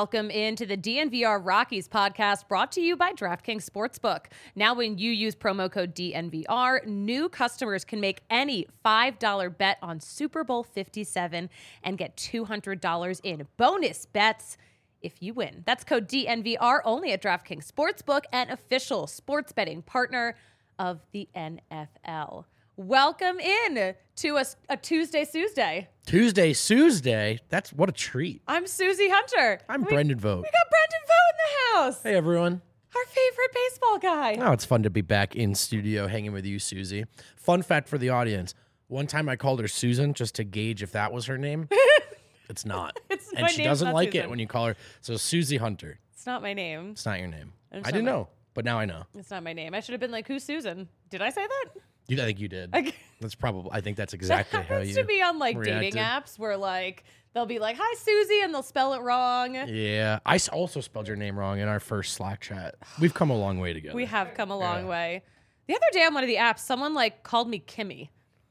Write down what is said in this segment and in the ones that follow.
Welcome into the DNVR Rockies podcast brought to you by DraftKings Sportsbook. Now, when you use promo code DNVR, new customers can make any $5 bet on Super Bowl 57 and get $200 in bonus bets if you win. That's code DNVR only at DraftKings Sportsbook, an official sports betting partner of the NFL. Welcome in to a Tuesday. Tuesday. That's what a treat. I'm Susie Hunter. I'm Brendan Vogt. We got Brendan Vogt in the house. Hey, everyone. Our favorite baseball guy. Oh, it's fun to be back in studio hanging with you, Susie. Fun fact for the audience. One time I called her Susan just to gauge if that was her name. It's not. My she name's doesn't not like Susan. it when you call her. So Susie Hunter. It's not my name. It's not your name. It's I not didn't my- know, but now I know. It's not my name. I should have been like, who's Susan? Did I say that? I think you did. Like, That's probably. I think that's exactly that how happens you to be on like reacted. dating apps where like they'll be like, hi, Susie, and they'll spell it wrong. Yeah, I also spelled your name wrong in our first Slack chat. We've come a long way together. We have come a long Yeah. way. The other day on one of the apps, someone like called me Kimmy.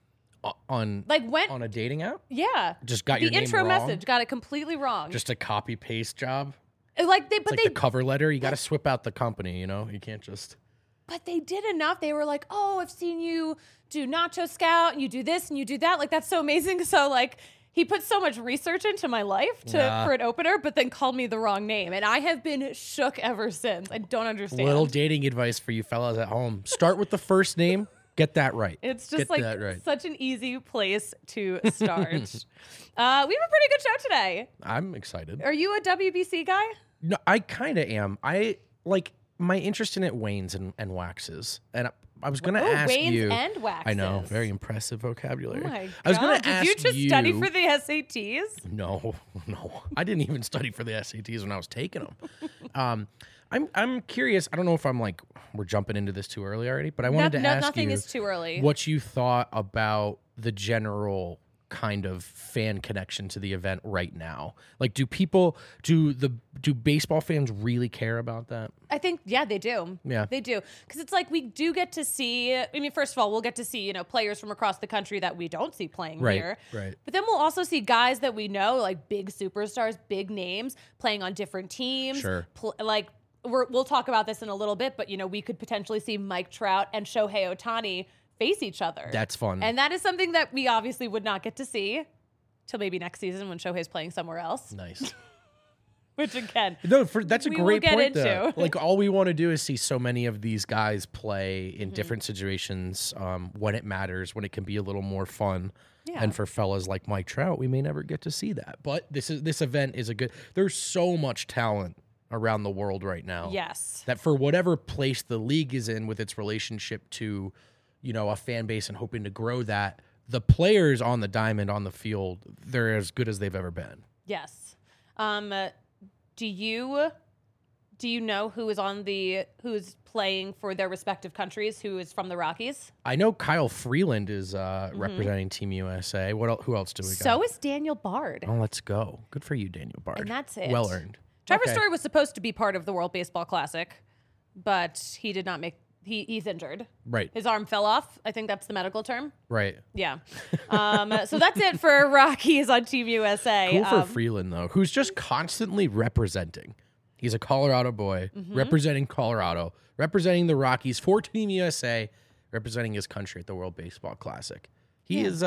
on On a dating app. yeah. Just got the your name intro wrong? message got it completely wrong. Just a copy paste job. Like they, It's but like they, the cover letter. You got to swip out the company. You know, you can't just. but they did enough. They were like, "Oh, I've seen you do Nacho Scout, and you do this and you do that. Like that's so amazing." So like he put so much research into my life for an opener, but then called me the wrong name, and I have been shook ever since. I don't understand. Little dating advice for you fellas at home: start with the first name. Get that right. It's just Get like that right. such an easy place to start. We have a pretty good show today. I'm excited. Are you a WBC guy? No, I kind of am. I like my interest in it wanes and waxes, and I was going to ask wanes you. and waxes. I know, very impressive vocabulary. Oh my God. I was going to ask Did you just study for the SATs? No. I didn't even study for the SATs when I was taking them. I'm curious. I don't know if we're jumping into this too early already, but I wanted to ask nothing you is too early. what you thought about the general kind of fan connection to the event right now. Like, do baseball fans really care about that? I think, yeah, they do. Yeah. They do. Because it's like we do get to see, I mean, first of all, we'll get to see, players from across the country that we don't see playing here. Right. But then we'll also see guys that we know, like big superstars, big names, playing on different teams. Sure. We'll talk about this in a little bit, but, we could potentially see Mike Trout and Shohei Ohtani face each other. That's fun. And that is something that we obviously would not get to see till maybe next season when Shohei's playing somewhere else. Nice. Which again, No, that's a we will great get point. into. Though. Like, all we want to do is see so many of these guys play in Mm-hmm. different situations when it matters, when it can be a little more fun. Yeah. And for fellas like Mike Trout, we may never get to see that. But this event is there's so much talent around the world right now. yes. That for whatever place the league is in with its relationship to, a fan base and hoping to grow that, the players on the diamond, on the field, they're as good as they've ever been. Yes. Do you know who's playing for their respective countries? Who is from the Rockies? I know Kyle Freeland is representing Team USA. Who else do we got? So is Daniel Bard. Oh, let's go. Good for you, Daniel Bard. And that's it. Well earned. Trevor Okay. Story was supposed to be part of the World Baseball Classic, but he did not make. He's injured. Right. His arm fell off. I think that's the medical term. Right. Yeah. So that's it for Rockies on Team USA. Cool for Freeland, though, who's just constantly representing. He's a Colorado boy, representing Colorado, representing the Rockies for Team USA, representing his country at the World Baseball Classic. He's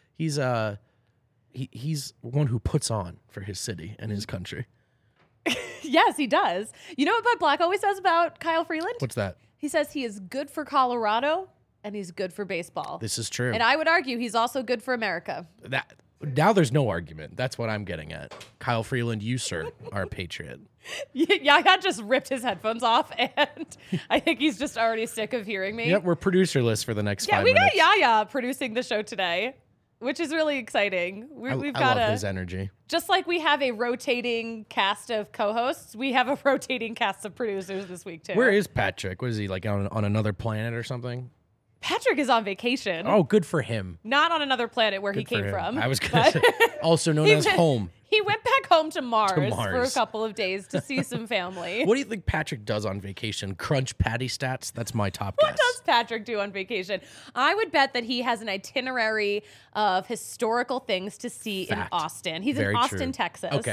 one who puts on for his city and his country. Yes, he does. You know what Bud Black always says about Kyle Freeland? What's that? He says he is good for Colorado and he's good for baseball. This is true. And I would argue he's also good for America. Now there's no argument. That's what I'm getting at. Kyle Freeland, you, sir, are a patriot. Yaya just ripped his headphones off, and I think he's just already sick of hearing me. Yep, we're producerless for the next 5 we minutes. got Yaya producing the show today, which is really exciting. We've I got love his energy. just like we have a rotating cast of co-hosts, we have a rotating cast of producers this week too. Where is Patrick? Was he like on another planet or something? Patrick is on vacation. Oh, good for him. Not on another planet where Good he for came him. from. I was going to say, also known as home. He went back home to Mars, for a Mars. couple of days to see some family. What do you think Patrick does on vacation? Crunch patty stats? That's my top guess. What does Patrick do on vacation? I would bet that he has an itinerary of historical things to see Fact. in Austin. He's Very in Austin, true. Texas. Okay.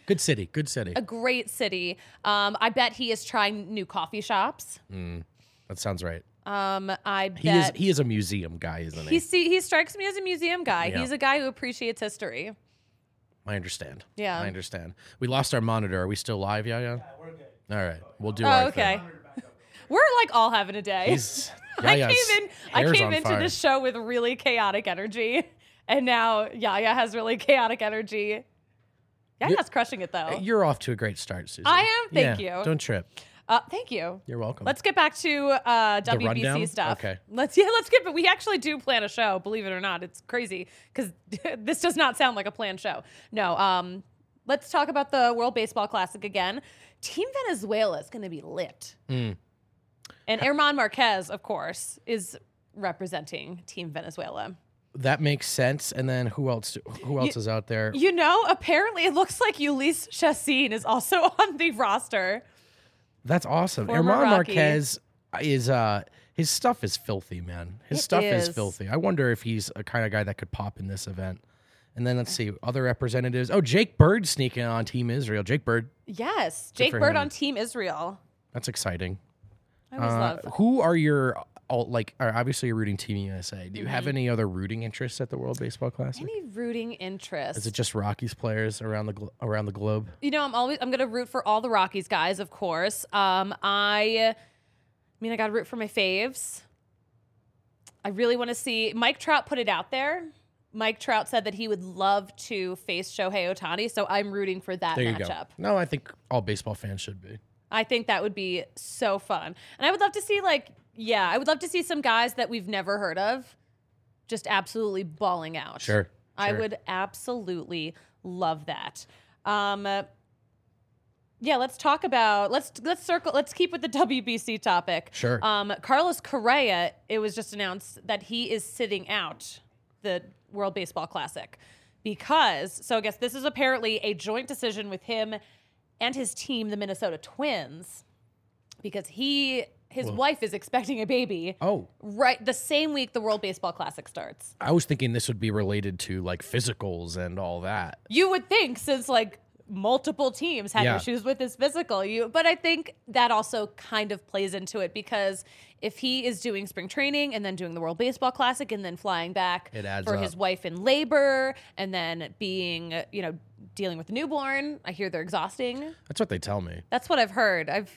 Good city. Good city. A great city. I bet he is trying new coffee shops. That sounds right. I bet He is a museum guy, isn't he? he strikes me as a museum guy. Yeah. He's a guy who appreciates history. I understand. Yeah. I understand. We lost our monitor. Are we still live, Yaya? Yeah, we're good. All right. We'll do Oh, our okay. thing. We're like all having a day. Yaya's I hair's came on into fire. this show with really chaotic energy, and now Yaya has really chaotic energy. Yaya's crushing it though. You're off to a great start, Susie. I am. Thank Yeah, you. Don't trip. Thank you. You're welcome. Let's get back to WBC rundown? stuff. Okay. Let's get. But we actually do plan a show. Believe it or not, it's crazy because this does not sound like a planned show. No. Let's talk about the World Baseball Classic again. Team Venezuela is going to be lit, and Herman Marquez, of course, is representing Team Venezuela. That makes sense. And then who else? Who else is out there? You know, apparently it looks like Ulysse Chassin is also on the roster. That's awesome. Former Herman Rocky. Marquez is his stuff is filthy, man. His It stuff is is. filthy. I wonder if he's a kind of guy that could pop in this event. And then let's see other representatives. Oh, Jake Bird sneaking on Team Israel. Jake Bird. Yes, Good Jake for Bird him. on Team Israel. That's exciting. I always love. Who are your obviously you're rooting Team USA. Do you Mm-hmm. have any other rooting interests at the World Baseball Classic? Any rooting interest? Is it just Rockies players around the globe? You know, I'm gonna root for all the Rockies guys, of course. I mean, I gotta root for my faves. I really want to see Mike Trout put it out there. Mike Trout said that he would love to face Shohei Ohtani, so I'm rooting for that There you matchup. go. No, I think all baseball fans should be. I think that would be so fun. And I would love to see I would love to see some guys that we've never heard of just absolutely balling out. Sure. I sure. would absolutely love that. Yeah, let's talk about let's keep with the WBC topic. Sure. Carlos Correa, it was just announced that he is sitting out the World Baseball Classic because I guess this is apparently a joint decision with him and his team, the Minnesota Twins, because his wife is expecting a baby. Oh. Right, the same week the World Baseball Classic starts. I was thinking this would be related to like physicals and all that. You would think, since multiple teams had Yeah. issues with his physical, but I think that also kind of plays into it because if he is doing spring training and then doing the World Baseball Classic and then flying back It adds for up. his wife in labor and then being, dealing with a newborn, I hear they're exhausting. That's what they tell me. That's what I've heard. I've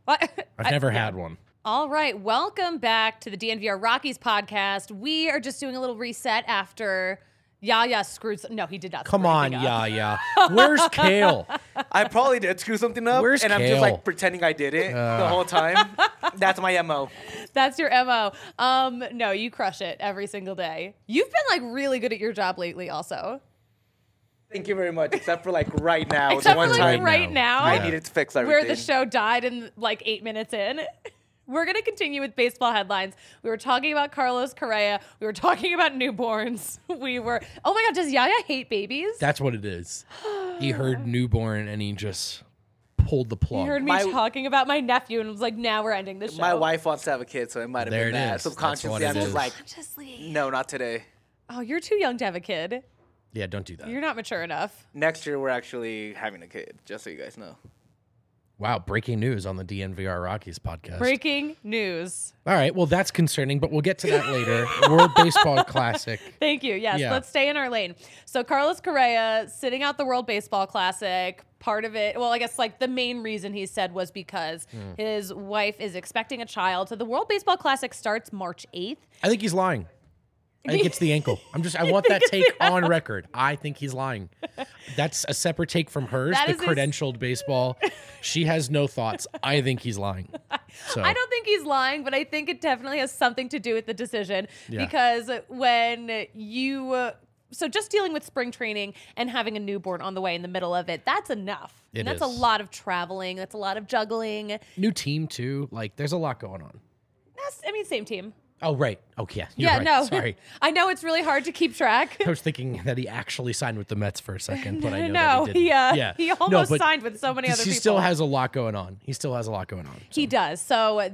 Never had one. All right, welcome back to the DNVR Rockies podcast. We are just doing a little reset after Yaya screwed. No, he did not. Come screw on, anything up. yeah. Where's Kale? I probably did screw something up, Where's and I'm Kale? just pretending I did it the whole time. That's my MO. That's your MO. No, you crush it every single day. You've been really good at your job lately, also. Thank you very much. Except for right now, Except the one for time right now, I Yeah. needed to fix everything. where the show died in 8 minutes in. We're going to continue with baseball headlines. We were talking about Carlos Correa. We were talking about newborns. Oh my God, does Yaya hate babies? That's what it is. He heard newborn and he just pulled the plug. He heard me talking about my nephew and was like, now we're ending the show. My wife wants to have a kid, so it might have There been it that. is. That's Subconsciously, what it I'm just is. like, Consciously. no, not today. Oh, you're too young to have a kid. Yeah, don't do that. You're not mature enough. Next year, we're actually having a kid, just so you guys know. Wow, breaking news on the DNVR Rockies podcast. Breaking news. All right, well, that's concerning, but we'll get to that later. World Baseball Classic. Thank you. Yes, Yeah. let's stay in our lane. So Carlos Correa sitting out the World Baseball Classic. Part of it, I guess the main reason he said was because his wife is expecting a child. So the World Baseball Classic starts March 8th. I think he's lying. I think it's the ankle. I want that take on record. I think he's lying. That's a separate take from hers, That the is his- credentialed baseball. She has no thoughts. I think he's lying. So I don't think he's lying, but I think it definitely has something to do with the decision Yeah. because when you so just dealing with spring training and having a newborn on the way in the middle of it, that's enough. It and that's is. a lot of traveling. That's a lot of juggling. new team too. There's a lot going on. Same team. Oh, right. Okay. You're Yeah, right. no. Sorry. I know it's really hard to keep track. I was thinking that he actually signed with the Mets for a second, but I know No, that he didn't. he almost signed with so many other He people. still has a lot going on. He does. So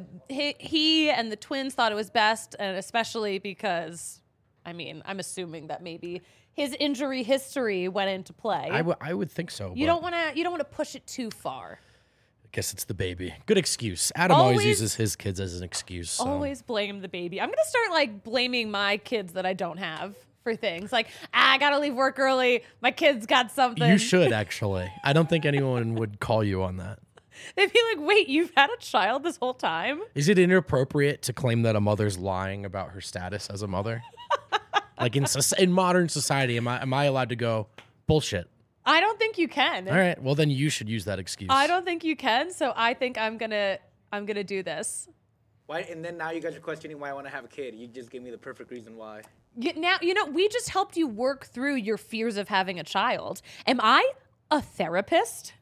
he and the Twins thought it was best, and especially because, I'm assuming that maybe his injury history went into play. I would think so. You but don't want to push it too far. I guess it's the baby. Good excuse. Adam always uses his kids as an excuse. So. Always blame the baby. I'm gonna start like blaming my kids that I don't have for things like I gotta leave work early. My kid's got something. You should actually. I don't think anyone would call you on that. They'd be like, "Wait, you've had a child this whole time?" Is it inappropriate to claim that a mother's lying about her status as a mother? Like in modern society, am I allowed to go bullshit? I don't think you can. All right. Well, then you should use that excuse. I don't think you can. So I think I'm gonna do this. Why? And then now you guys are questioning why I want to have a kid. You just gave me the perfect reason why. Now we just helped you work through your fears of having a child. Am I a therapist?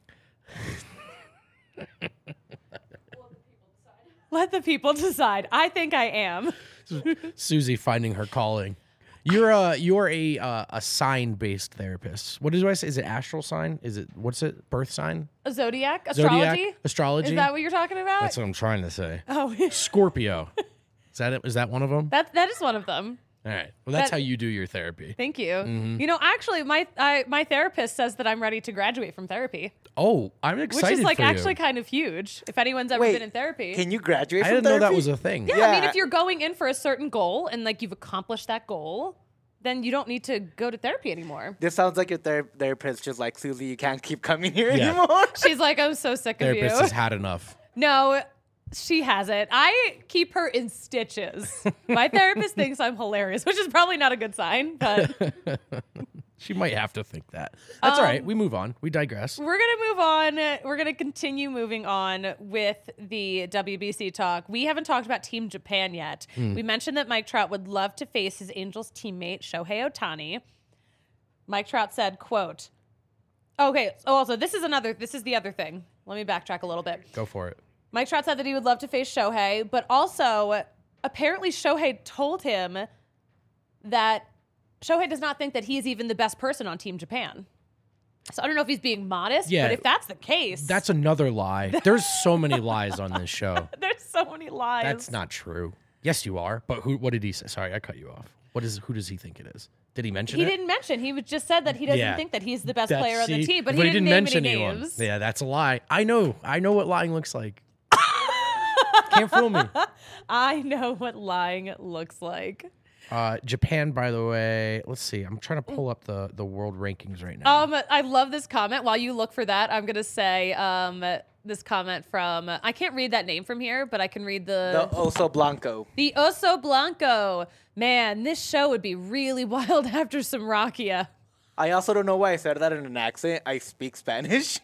Let the people decide. I think I am. Susie finding her calling. You're a sign-based therapist. What do I say? Is it astral sign? Is it what's it? Birth sign? A zodiac? Astrology? Astrology? Is that what you're talking about? That's what I'm trying to say. Oh, Scorpio. Is that it? Is that one of them? that is one of them. All right. Well, that's how you do your therapy. Thank you. You know, actually, my therapist says that I'm ready to graduate from therapy, Oh, I'm excited which is like for you. actually kind of huge. If anyone's ever been in therapy, Can you graduate I from didn't know that therapy? was a thing. yeah, I mean, Yeah. if you're going in for a certain goal and like you've accomplished that goal, then you don't need to go to therapy anymore. This sounds like your therapist just like, Susie, you can't keep coming here Yeah. anymore. She's like, I'm so sick of Therapist you. has had enough. No, she hasn't. I keep her in stitches. My therapist thinks I'm hilarious, which is probably not a good sign, but She might have to think that. That's all right. We move on. We digress. we're going to move on. We're going to continue moving on with the WBC talk. We haven't talked about Team Japan yet. We mentioned that Mike Trout would love to face his Angels teammate, Shohei Ohtani. Mike Trout said, quote, okay, so also this is the other thing. Let me backtrack a little bit. Go for it. Mike Trout said that he would love to face Shohei, but also apparently Shohei told him that Shohei does not think that he's even the best person on Team Japan. So I don't know if he's being modest, Yeah. but if that's the case, That's another lie. There's so many lies on this show. there's so many lies. That's not true. Yes, you are. But what did he say? Sorry, I cut you off. Who does he think it is? Did he mention He it? didn't mention. He just said that he doesn't Yeah. think that he's the best That's- player on the see, team, but he didn't name mention any anyone. names. Yeah, that's a lie. I know what lying looks like. Can't fool me. I know what lying looks like. Japan, by the way, let's see. I'm trying to pull up the world rankings right now. I love this comment. While you look for that, I'm gonna say this comment from I can't read that name from here, but I can read The Oso Blanco. The Oso Blanco. Man, this show would be really wild after some Rakia. I also don't know why I said that in an accent. I speak Spanish.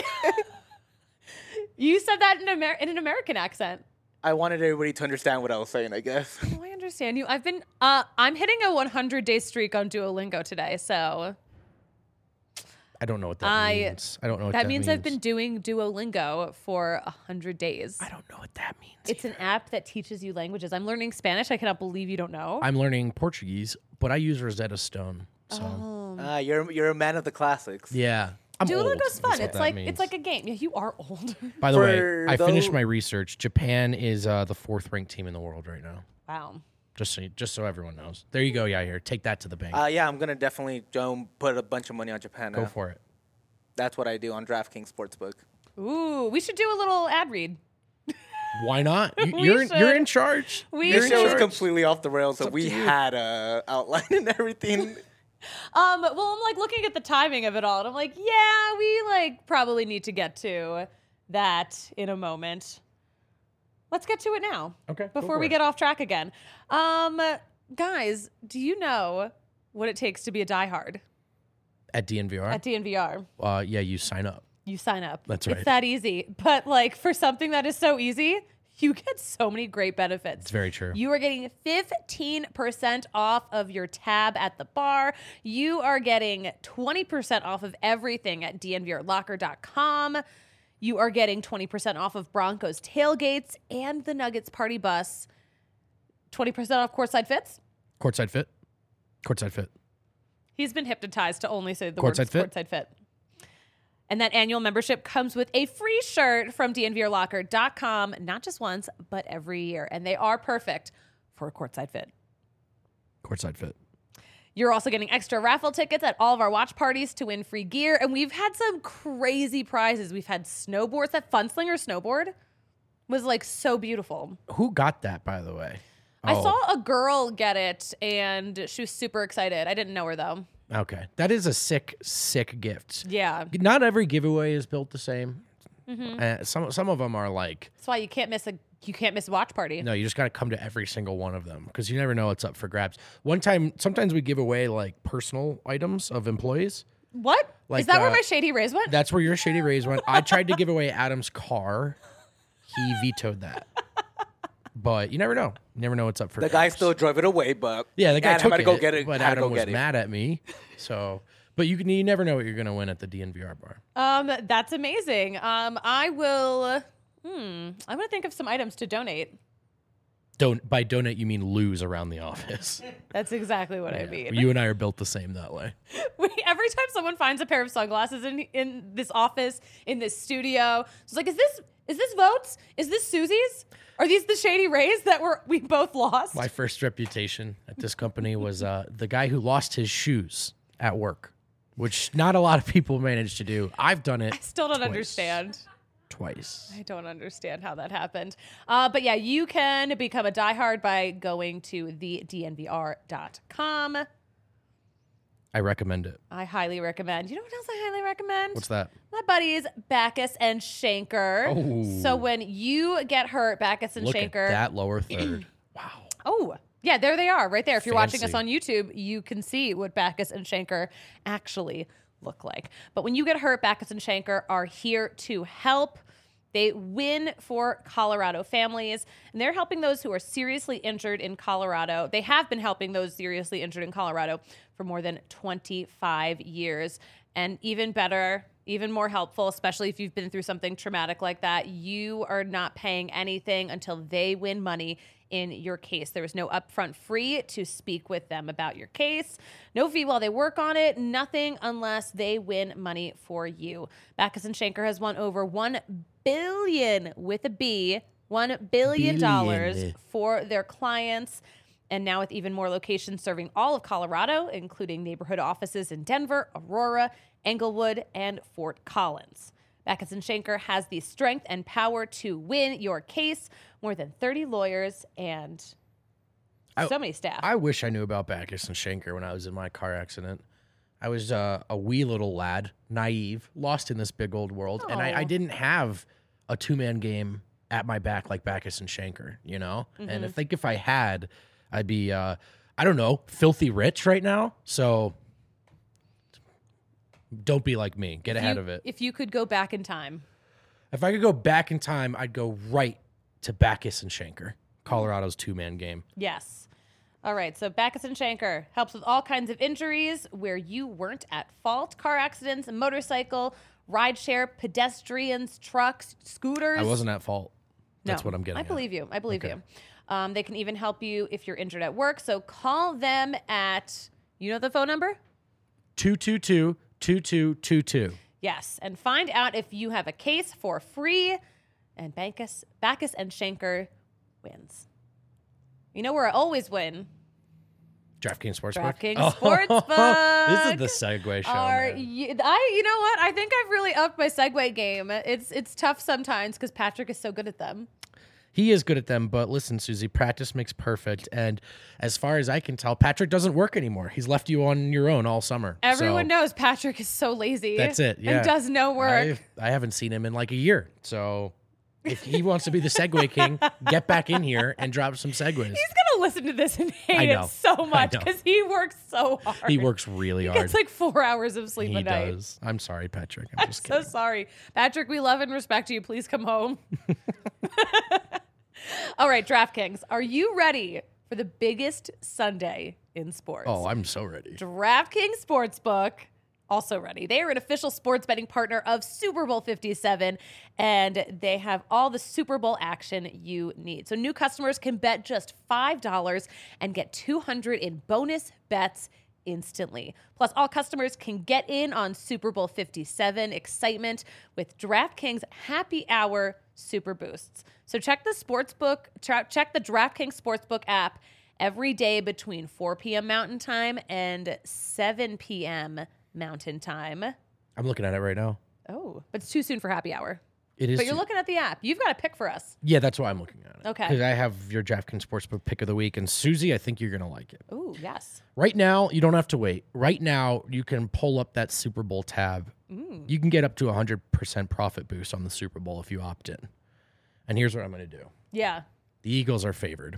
You said that in an American accent. I wanted everybody to understand what I was saying, I guess. Oh, I understand you. I'm hitting a 100-day streak on Duolingo today, so I don't know what that means. I don't know what that means. I've been doing Duolingo for 100 days. I don't know what that means. It's an app that teaches you languages. I'm learning Spanish. I cannot believe you don't know. I'm learning Portuguese, but I use Rosetta Stone. So You're a man of the classics. yeah. I'm old, Duolingo's is fun. what It's that like means. it's like a game. Yeah, you are old. By the way, For I finished those- my research. Japan is the 4th ranked team in the world right now. Wow. Just so everyone knows. There you go, Yair. Take that to the bank. Yeah, I'm gonna definitely put a bunch of money on Japan. Go for it. That's what I do on DraftKings Sportsbook. Ooh, we should do a little ad read. Why not? We You're should. in charge. We You're This in show was charge. completely off the rails, so up we to you. had a outline and everything. Well, I'm like looking at the timing of it all, and I'm like, yeah, we like probably need to get to that in a moment. Let's get to it now. Okay, go Before for we it. get off track again. Guys, do you know what it takes to be a diehard At DNVR? at DNVR? Yeah, you sign up. You sign up. That's It's right. that easy. But like for something that is so easy, you get so many great benefits. It's very true. You are getting 15% off of your tab at the bar. You are getting 20% off of everything at dnvrlocker.com. You are getting 20% off of Broncos tailgates and the Nuggets party bus. 20% off courtside fits. Courtside fit. Courtside fit. He's been hypnotized to only say the Courtside words fit? courtside fit. And that annual membership comes with a free shirt from dnvrlocker.com, not just once, but every year. And they are perfect for a courtside fit. Courtside fit. You're also getting extra raffle tickets at all of our watch parties to win free gear. And we've had some crazy prizes. We've had snowboards. That Funslinger snowboard was like so beautiful. Who got that, by the way? I saw a girl get it and she was super excited. I didn't know her though. Okay. That is a sick gift. Yeah. Not every giveaway is built the same. Some of them are like, That's why you can't miss a watch party. no, you just got to come to every single one of them because you never know what's up for grabs. Sometimes we give away like personal items of employees. What? Like, Is that where my Shady Rays went? That's where your Shady Rays went. I tried to give away Adam's car. He vetoed that. But you never know. You never know what's up for The grabs. guy still drove it away, but Yeah, the guy Adam took had to it, go get it. but had to Adam go was get it. mad at me. So, but you never know what you're gonna win at the DNVR bar. That's amazing. I will. I'm gonna think of some items to donate. By donate you mean lose around the office. That's exactly what I mean. You and I are built the same that way. Every time someone finds a pair of sunglasses in this office, in this studio, it's like, is this Votes? Is this Susie's? Are these the Shady Rays that we both lost? My first reputation at this company was the guy who lost his shoes at work, which not a lot of people manage to do. I've done it. I still don't understand. Twice. I don't understand how that happened. But yeah, you can become a diehard by going to thednvr.com. I recommend it. I highly recommend. You know what else I highly recommend? What's that? My buddies Backus and Shanker. Oh. So when you get hurt, Backus and Look Shanker. at that lower third. Wow. Oh, yeah, there they are right there. If you're watching us Fancy. on YouTube, you can see what Backus and Shanker actually look like. But when you get hurt, Backus and Shanker are here to help. They win for Colorado families, and they're helping those who are seriously injured in Colorado. They have been helping those seriously injured in Colorado for more than 25 years. And even better, even more helpful, especially if you've been through something traumatic like that, you are not paying anything until they win money in your case. There is no upfront fee to speak with them about your case. No fee while they work on it. Nothing unless they win money for you. Backus and Shanker has won over $1 billion with a B, $1 billion Billion. for their clients. And now with even more locations serving all of Colorado, including neighborhood offices in Denver, Aurora, Englewood, and Fort Collins. Backus and Shanker has the strength and power to win your case. More than 30 lawyers and so many staff. I wish I knew about Backus and Shanker when I was in my car accident. I was a wee little lad, naive, lost in this big old world, and I didn't have a two-man game at my back like Backus and Shanker, you know? And I think if I had, I'd be, I don't know, filthy rich right now. So don't be like me. Get ahead of it. If you could go back in time. If I could go back in time, I'd go right to Backus and Shanker, Colorado's two-man game. Yes. All right. So Backus and Shanker helps with all kinds of injuries where you weren't at fault. Car accidents, motorcycle, rideshare, pedestrians, trucks, scooters. I wasn't at fault. That's No, what I'm getting I at. believe you. I believe you. They can even help you if you're injured at work. So call them at, you know the phone number? 222-2222. Yes. And find out if you have a case for free. And Backus and Shanker wins. You know where I always win? DraftKings Sportsbook. DraftKings Sportsbook. This is the segue show. man. You know what? I think I've really upped my segue game. It's tough sometimes because Patrick is so good at them. He is good at them, but listen, Susie, practice makes perfect. And as far as I can tell, Patrick doesn't work anymore. He's left you on your own all summer. Everyone So knows Patrick is so lazy. that's it. Yeah. And does no work. I haven't seen him in like a year. So if he wants to be the segue king, get back in here and drop some segues. He's gonna listen to this and I hate know. it so I much know. because he works so hard. He works really He hard. gets like 4 hours of sleep He a night. does. I'm sorry, Patrick. I'm just So kidding. sorry. Patrick, we love and respect you. Please come home. All right, DraftKings, are you ready for the biggest Sunday in sports? Oh, I'm so ready. DraftKings Sportsbook, also ready. They are an official sports betting partner of Super Bowl 57, and they have all the Super Bowl action you need. So new customers can bet just $5 and get $200 in bonus bets instantly. Plus, all customers can get in on Super Bowl 57 excitement with DraftKings Happy Hour Super Boosts. So check the DraftKings Sportsbook app every day between 4 p.m. Mountain Time and 7 p.m. Mountain Time. I'm looking at it right now. Oh, but it's too soon for happy hour. It is. But you're looking at the app. You've got to pick for us. Yeah, that's why I'm looking at it. Okay. Because I have your DraftKings Sportsbook pick of the week. And Susie, I think you're going to like it. Oh, yes. Right now, you don't have to wait. Right now, you can pull up that Super Bowl tab. You can get up to 100% profit boost on the Super Bowl if you opt in. And here's what I'm going to do. Yeah. The Eagles are favored.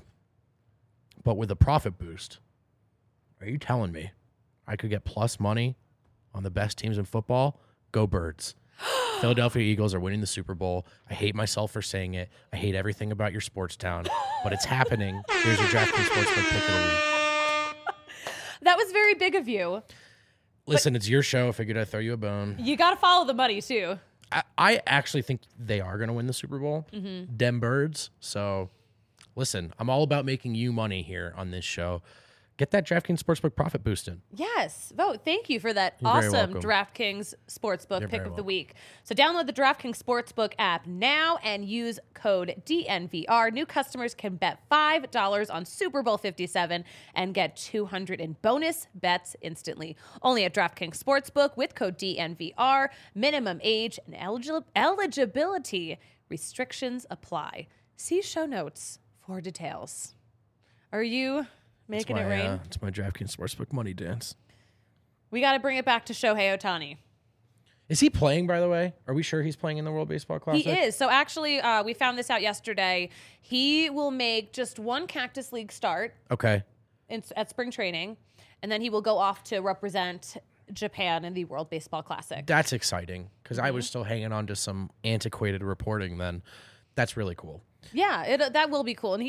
But with a profit boost, are you telling me I could get plus money on the best teams in football? Go Birds. Philadelphia Eagles are winning the Super Bowl. I hate myself for saying it. I hate everything about your sports town, but it's happening. Here's your DraftKings Sportsbook pick of the week. That was very big of you. Listen, it's your show. I figured I'd throw you a bone. You got to follow the money, too. I actually think they are going to win the Super Bowl. Dem Birds. So, listen, I'm all about making you money here on this show. Get that DraftKings Sportsbook profit boost in. Yes. Vote. Thank you for that You're very awesome welcome. DraftKings Sportsbook You're pick very of the welcome. week. So download the DraftKings Sportsbook app now and use code DNVR. New customers can bet $5 on Super Bowl 57 and get $200 in bonus bets instantly. Only at DraftKings Sportsbook with code DNVR. Minimum age and eligibility restrictions apply. See show notes for details. Are you making it rain? It's my DraftKings Sportsbook money dance. We got to bring it back to Shohei Ohtani. Is he playing, by the way? Are we sure he's playing in the World Baseball Classic? He is. So actually, we found this out yesterday. He will make just one Cactus League start Okay. at spring training, and then he will go off to represent Japan in the World Baseball Classic. That's exciting because I was still hanging on to some antiquated reporting then. That's really cool. Yeah, that will be cool. And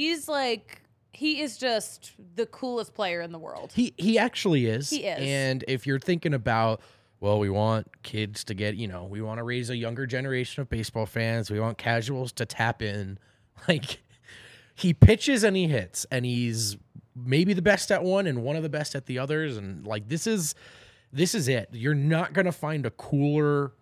he is just the coolest player in the world. He actually is. He is. And if you're thinking about, well, we want kids to get, we want to raise a younger generation of baseball fans. We want casuals to tap in. Like, he pitches and he hits, and he's maybe the best at one and one of the best at the others. And like, this is it. You're not going to find a cooler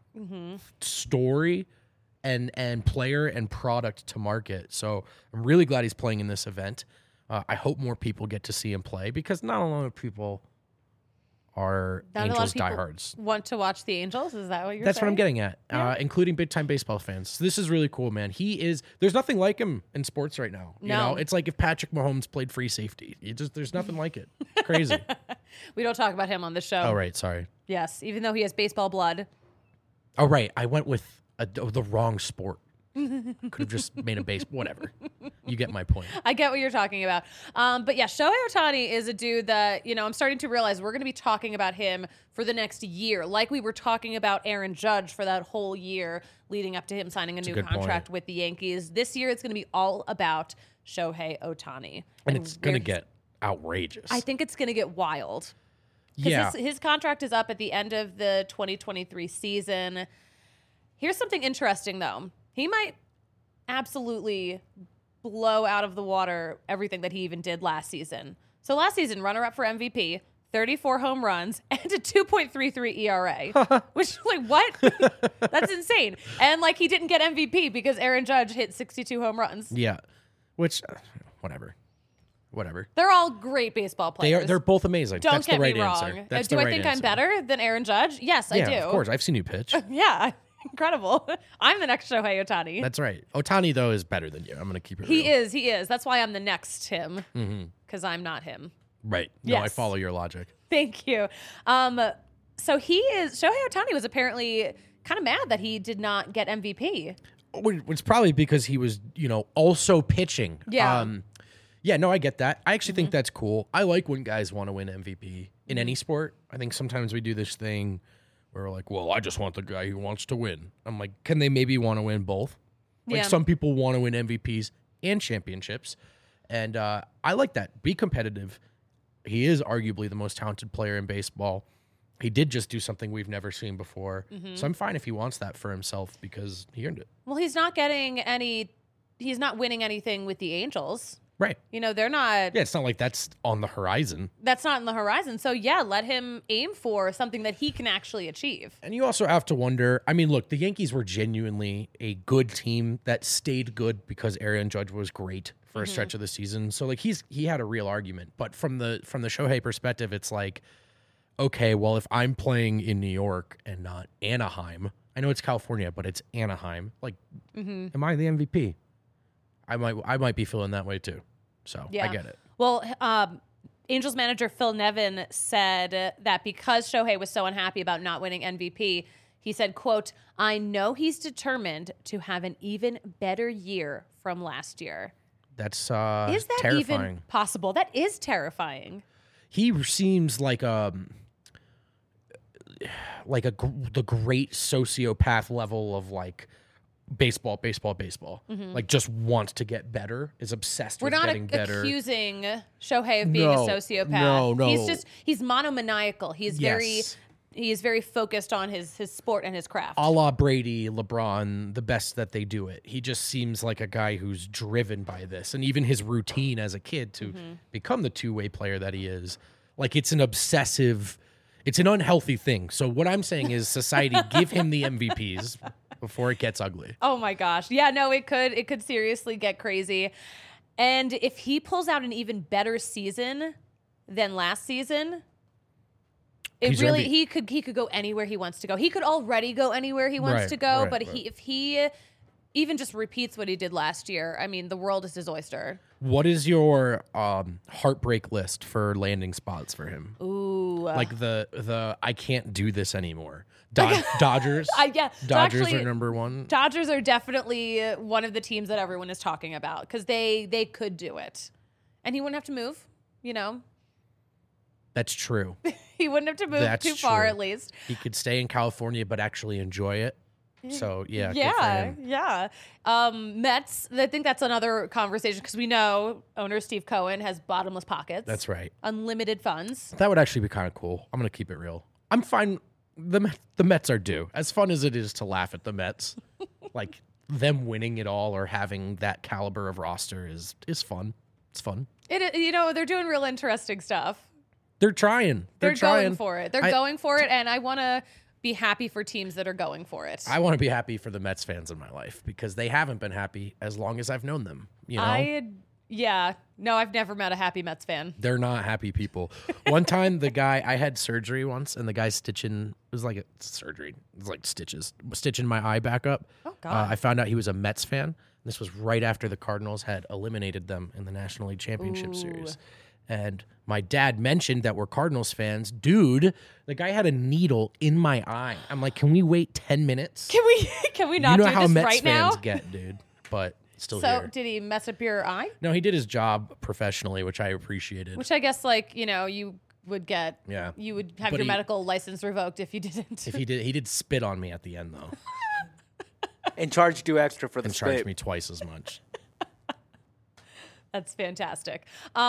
story and player and product to market. So I'm really glad he's playing in this event. I hope more people get to see him play because not a lot of people are Not a lot Angels of people diehards. Want to watch the Angels? Is that what you're That's saying? what I'm getting at, Yeah. including big-time baseball fans. So this is really cool, man. There's nothing like him in sports right now. You No. know, it's like if Patrick Mahomes played free safety. There's nothing like it. It's crazy. We don't talk about him on the show. Oh, right. Sorry. Yes, even though he has baseball blood. Oh, right. I went with the wrong sport. Could have just made a base. Whatever. You get my point. I get what you're talking about. But yeah, Shohei Ohtani is a dude that, I'm starting to realize we're going to be talking about him for the next year, like we were talking about Aaron Judge for that whole year leading up to him signing a new good contract point. with the Yankees. This year, it's going to be all about Shohei Ohtani. And it's going to where get outrageous. I think it's going to get wild. 'Cause Yeah. His contract is up at the end of the 2023 season. Here's something interesting, though. He might absolutely blow out of the water everything that he even did last season. So last season, runner-up for MVP, 34 home runs, and a 2.33 ERA. Which, what? That's insane. And, he didn't get MVP because Aaron Judge hit 62 home runs. Yeah. Which, whatever. They're all great baseball players. They're both amazing. Don't That's get the right me wrong. answer. That's Do the I right think answer. I'm better than Aaron Judge? Yes, Yeah, I do. of course. I've seen you pitch. Yeah, incredible. I'm the next Shohei Ohtani. That's right. Ohtani, though, is better than you. I'm going to keep it He real. is. That's why I'm the next him, because I'm not him. Right. No, I Yes. follow your logic. Thank you. So Shohei Ohtani was apparently kind of mad that he did not get MVP. It's probably because he was, also pitching. Yeah. Yeah, no, I get that. I actually think that's cool. I like when guys want to win MVP in any sport. I think sometimes we do this thing where we're like, well, I just want the guy who wants to win. I'm like, can they maybe want to win both? Like Yeah. some people want to win MVPs and championships. And I like that. Be competitive. He is arguably the most talented player in baseball. He did just do something we've never seen before. So I'm fine if he wants that for himself because he earned it. Well, he's not winning anything with the Angels. Right. You know, they're not. Yeah, it's not like that's on the horizon. That's not on the horizon. So yeah, let him aim for something that he can actually achieve. And you also have to wonder, I mean, look, the Yankees were genuinely a good team that stayed good because Aaron Judge was great for a stretch of the season. So like he had a real argument. But from the Shohei perspective, it's like, okay, well, if I'm playing in New York and not Anaheim, I know it's California, but it's Anaheim. Like, am I the MVP? I might be feeling that way too. So I get it. Well, Angels manager Phil Nevin said that because Shohei was so unhappy about not winning MVP, he said, quote, "I know he's determined to have an even better year from last year." That's Is that terrifying. even possible? That is terrifying. He seems like the great sociopath level of like baseball. Like just wants to get better, is obsessed with getting better. We're not accusing Shohei of being a sociopath. No. He's monomaniacal. He is very focused on his sport and his craft. A la Brady, LeBron, the best that they do it. He just seems like a guy who's driven by this. And even his routine as a kid to become the two-way player that he is, like it's an unhealthy thing. So what I'm saying is society, give him the MVPs before it gets ugly. Oh my gosh. Yeah, no, it could seriously get crazy. And if he pulls out an even better season than last season, he could go anywhere he wants to go. He could already go anywhere he wants to go, but if he even just repeats what he did last year, I mean, the world is his oyster. What is your heartbreak list for landing spots for him? Ooh. Like the I can't do this anymore. Dodgers? Dodgers are number one. Dodgers are definitely one of the teams that everyone is talking about because they could do it. And he wouldn't have to move, you know? That's true. He wouldn't have to move too far, at least. He could stay in California, but actually enjoy it. So, yeah. Good for him. Yeah. Mets, I think that's another conversation because we know owner Steve Cohen has bottomless pockets. That's right. Unlimited funds. That would actually be kind of cool. I'm going to keep it real. I'm fine. The Mets are due. As fun as it is to laugh at the Mets, like them winning it all or having that caliber of roster is fun. It's fun. They're doing real interesting stuff. They're trying. They're going for it. They're going for it, and I want to be happy for teams that are going for it. I want to be happy for the Mets fans in my life because they haven't been happy as long as I've known them. You know? No, I've never met a happy Mets fan. They're not happy people. One time, I had surgery once, and the guy stitching, it was like a surgery. It was like stitching my eye back up. Oh, God. I found out he was a Mets fan. This was right after the Cardinals had eliminated them in the National League Championship Series. And my dad mentioned that we're Cardinals fans. Dude, the guy had a needle in my eye. I'm like, can we wait 10 minutes? Can we not do this right now? You know how Mets fans get, dude. But still here. So did he mess up your eye? No, he did his job professionally, which I appreciated. Which I guess, you would get. Yeah. You would have your medical license revoked if you didn't. If he did spit on me at the end, though. And charged you extra for the and spit. Charged me twice as much. That's fantastic.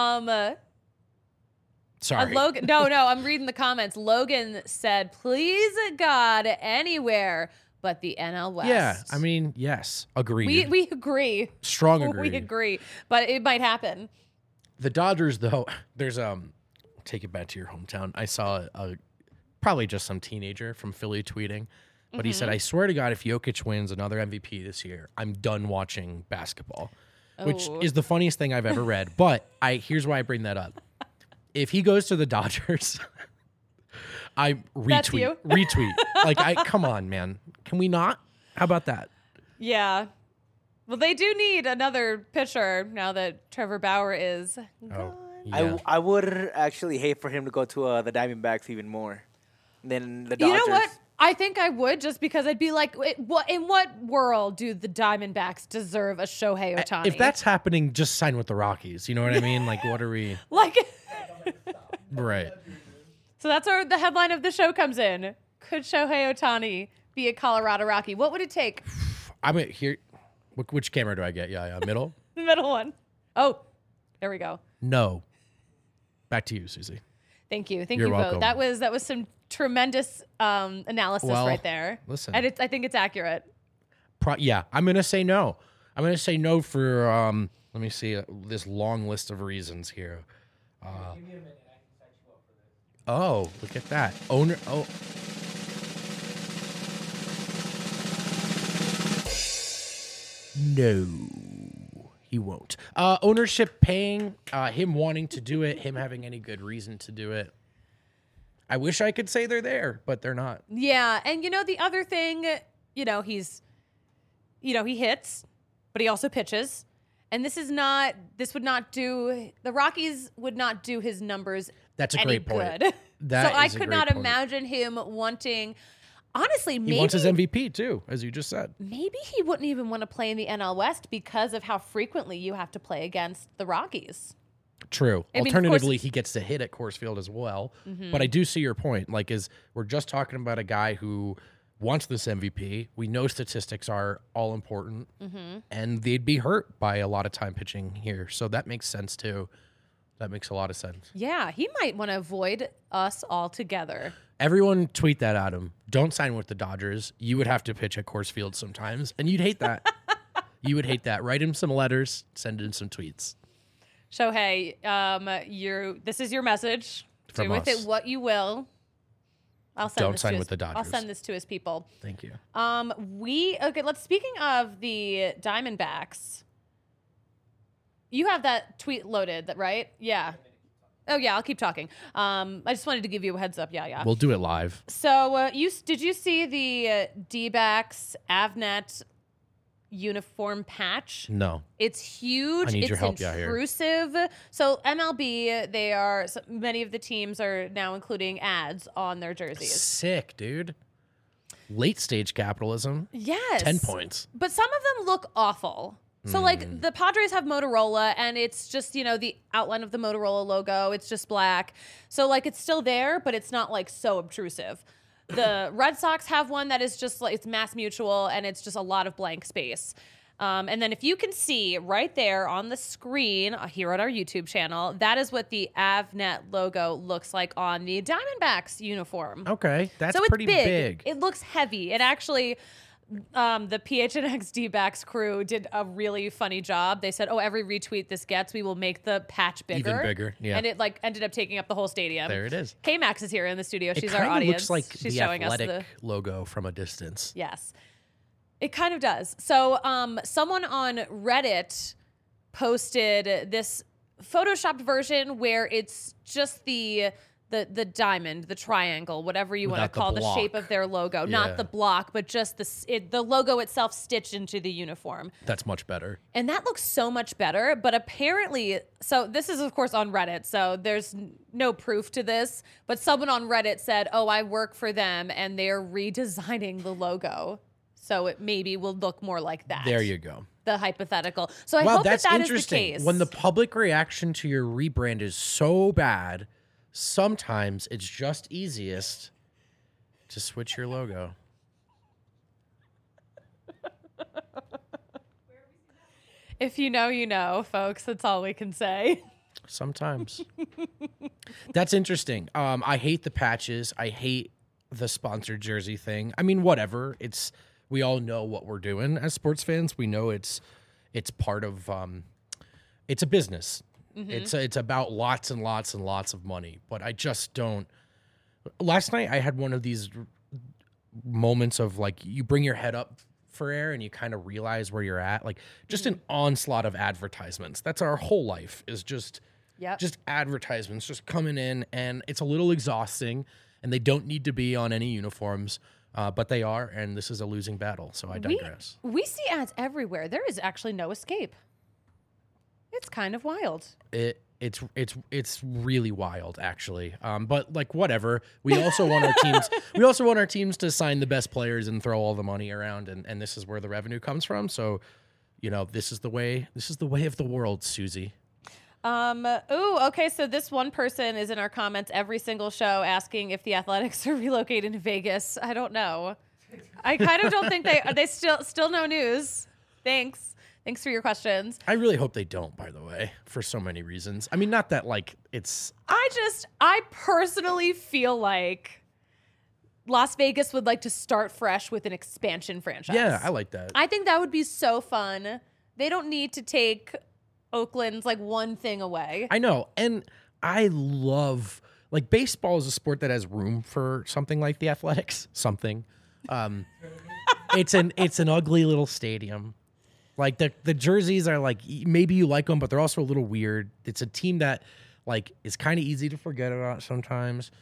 Sorry. Logan, no, I'm reading the comments. Logan said, "Please, God, anywhere but the NL West." Yeah, I mean, yes, agreed. We agree. Strong agree. We agree, but it might happen. The Dodgers, though, there's take it back to your hometown. I saw probably just some teenager from Philly tweeting, but he said, "I swear to God, if Jokic wins another MVP this year, I'm done watching basketball," which is the funniest thing I've ever read. But here's why I bring that up. If he goes to the Dodgers, I retweet. That's you? Retweet. Come on, man. Can we not? How about that? Yeah. Well, they do need another pitcher now that Trevor Bauer is gone. Yeah. I would actually hate for him to go to the Diamondbacks even more than the Dodgers. You know what? I think I would just because I'd be like, in what world do the Diamondbacks deserve a Shohei Ohtani? If that's happening, just sign with the Rockies. You know what I mean? What are we... Right. So that's where the headline of the show comes in. Could Shohei Ohtani be a Colorado Rocky? What would it take? I'm here. Which camera do I get? Yeah, middle? The middle one. Oh, there we go. No. Back to you, Susie. Thank you. You're you welcome. both. That was some tremendous analysis right there. Listen. And I think it's accurate. Yeah, I'm going to say no. I'm going to say no for Let me see this long list of reasons here. Give me a minute. I can set you up for this. Oh, look at that. Owner. Oh. No, he won't. Ownership paying, him wanting to do it, him having any good reason to do it. I wish I could say they're there, but they're not. Yeah, and the other thing, he hits, but he also pitches. And the Rockies would not do his numbers That's a any great point. good. That so I is a could great not point. imagine him wanting, honestly, He maybe wants his MVP too, as you just said. maybe he wouldn't even want to play in the NL West because of how frequently you have to play against the Rockies. True. I mean, of Alternatively, course- he gets to hit at Coors Field as well. But I do see your point. We're just talking about a guy who wants this MVP. We know statistics are all important, and they'd be hurt by a lot of time pitching here. So that makes sense too. That makes a lot of sense. Yeah, he might want to avoid us altogether. Everyone tweet that at him. Don't sign with the Dodgers. You would have to pitch at Coors Field sometimes, and you'd hate that. You would hate that. Write him some letters. Send in some tweets. Shohei, this is your message. From Do with us. it what you will. I'll send Don't this sign to with the Dodgers. I'll send this to his people. Thank you. Speaking of the Diamondbacks, you have that tweet loaded, right? Yeah. Oh yeah, I'll keep talking. I just wanted to give you a heads up. Yeah. We'll do it live. So did you see the D-backs Avnet uniform patch? No. It's huge. I need it's your help out here. intrusive. So MLB, many of the teams are now including ads on their jerseys. Sick, dude. Late stage capitalism. Yes. 10 points. But some of them look awful. So the Padres have Motorola, and it's just, the outline of the Motorola logo. It's just black. So it's still there, but it's not so obtrusive. The Red Sox have one that is just it's Mass Mutual, and it's just a lot of blank space. And then if you can see right there on the screen here on our YouTube channel, that is what the Avnet logo looks like on the Diamondbacks uniform. Okay. That's So it's pretty big. It looks heavy. It actually, the PHNX D-backs crew did a really funny job. They said, every retweet this gets, we will make the patch bigger. Even bigger, yeah. And it ended up taking up the whole stadium. There it is. K-Max is here in the studio. It She's our kind of audience. looks like She's the showing Athletic us logo from a distance. Yes. It kind of does. So someone on Reddit posted this photoshopped version where it's just the diamond, the triangle, whatever you want to Without the call the block. shape of their logo. Yeah. Not the block, but just the logo itself stitched into the uniform. That's much better. And that looks so much better. But apparently, so this is, of course, on Reddit, so there's no proof to this. But someone on Reddit said, I work for them, and they're redesigning the logo. So it maybe will look more like that. There you go. The hypothetical. So I Wow, hope that's that is the interesting. case. When the public reaction to your rebrand is so bad, sometimes it's just easiest to switch your logo. If you know, you know, folks. That's all we can say. Sometimes. That's interesting. I hate the patches. I hate the sponsored jersey thing. I mean, whatever. We all know what we're doing as sports fans. We know it's part of it's a business. It's about lots and lots and lots of money. But I just don't. Last night I had one of these moments of you bring your head up for air and you kind of realize where you're at. Just an onslaught of advertisements. That's our whole life is just advertisements just coming in, and it's a little exhausting, and they don't need to be on any uniforms. But they are, and this is a losing battle, so I digress. We see ads everywhere. There is actually no escape. It's kind of wild. It's really wild, actually. But whatever. We also want our teams. We also want our teams to sign the best players and throw all the money around, and this is where the revenue comes from. So, this is the way. This is the way of the world, Susie. Okay. So this one person is in our comments every single show asking if the Athletics are relocating to Vegas. I don't know. I kind of don't think they still no news. Thanks for your questions. I really hope they don't, by the way, for so many reasons. I mean, not that it's. I personally feel like Las Vegas would like to start fresh with an expansion franchise. Yeah, I like that. I think that would be so fun. They don't need to take Oakland's like one thing away. I know. And I love, like, baseball is a sport that has room for something like the Athletics. It's an ugly little stadium. Like, the jerseys are like, maybe you like them, but they're also a little weird. It's a team that, like, is kind of easy to forget about sometimes.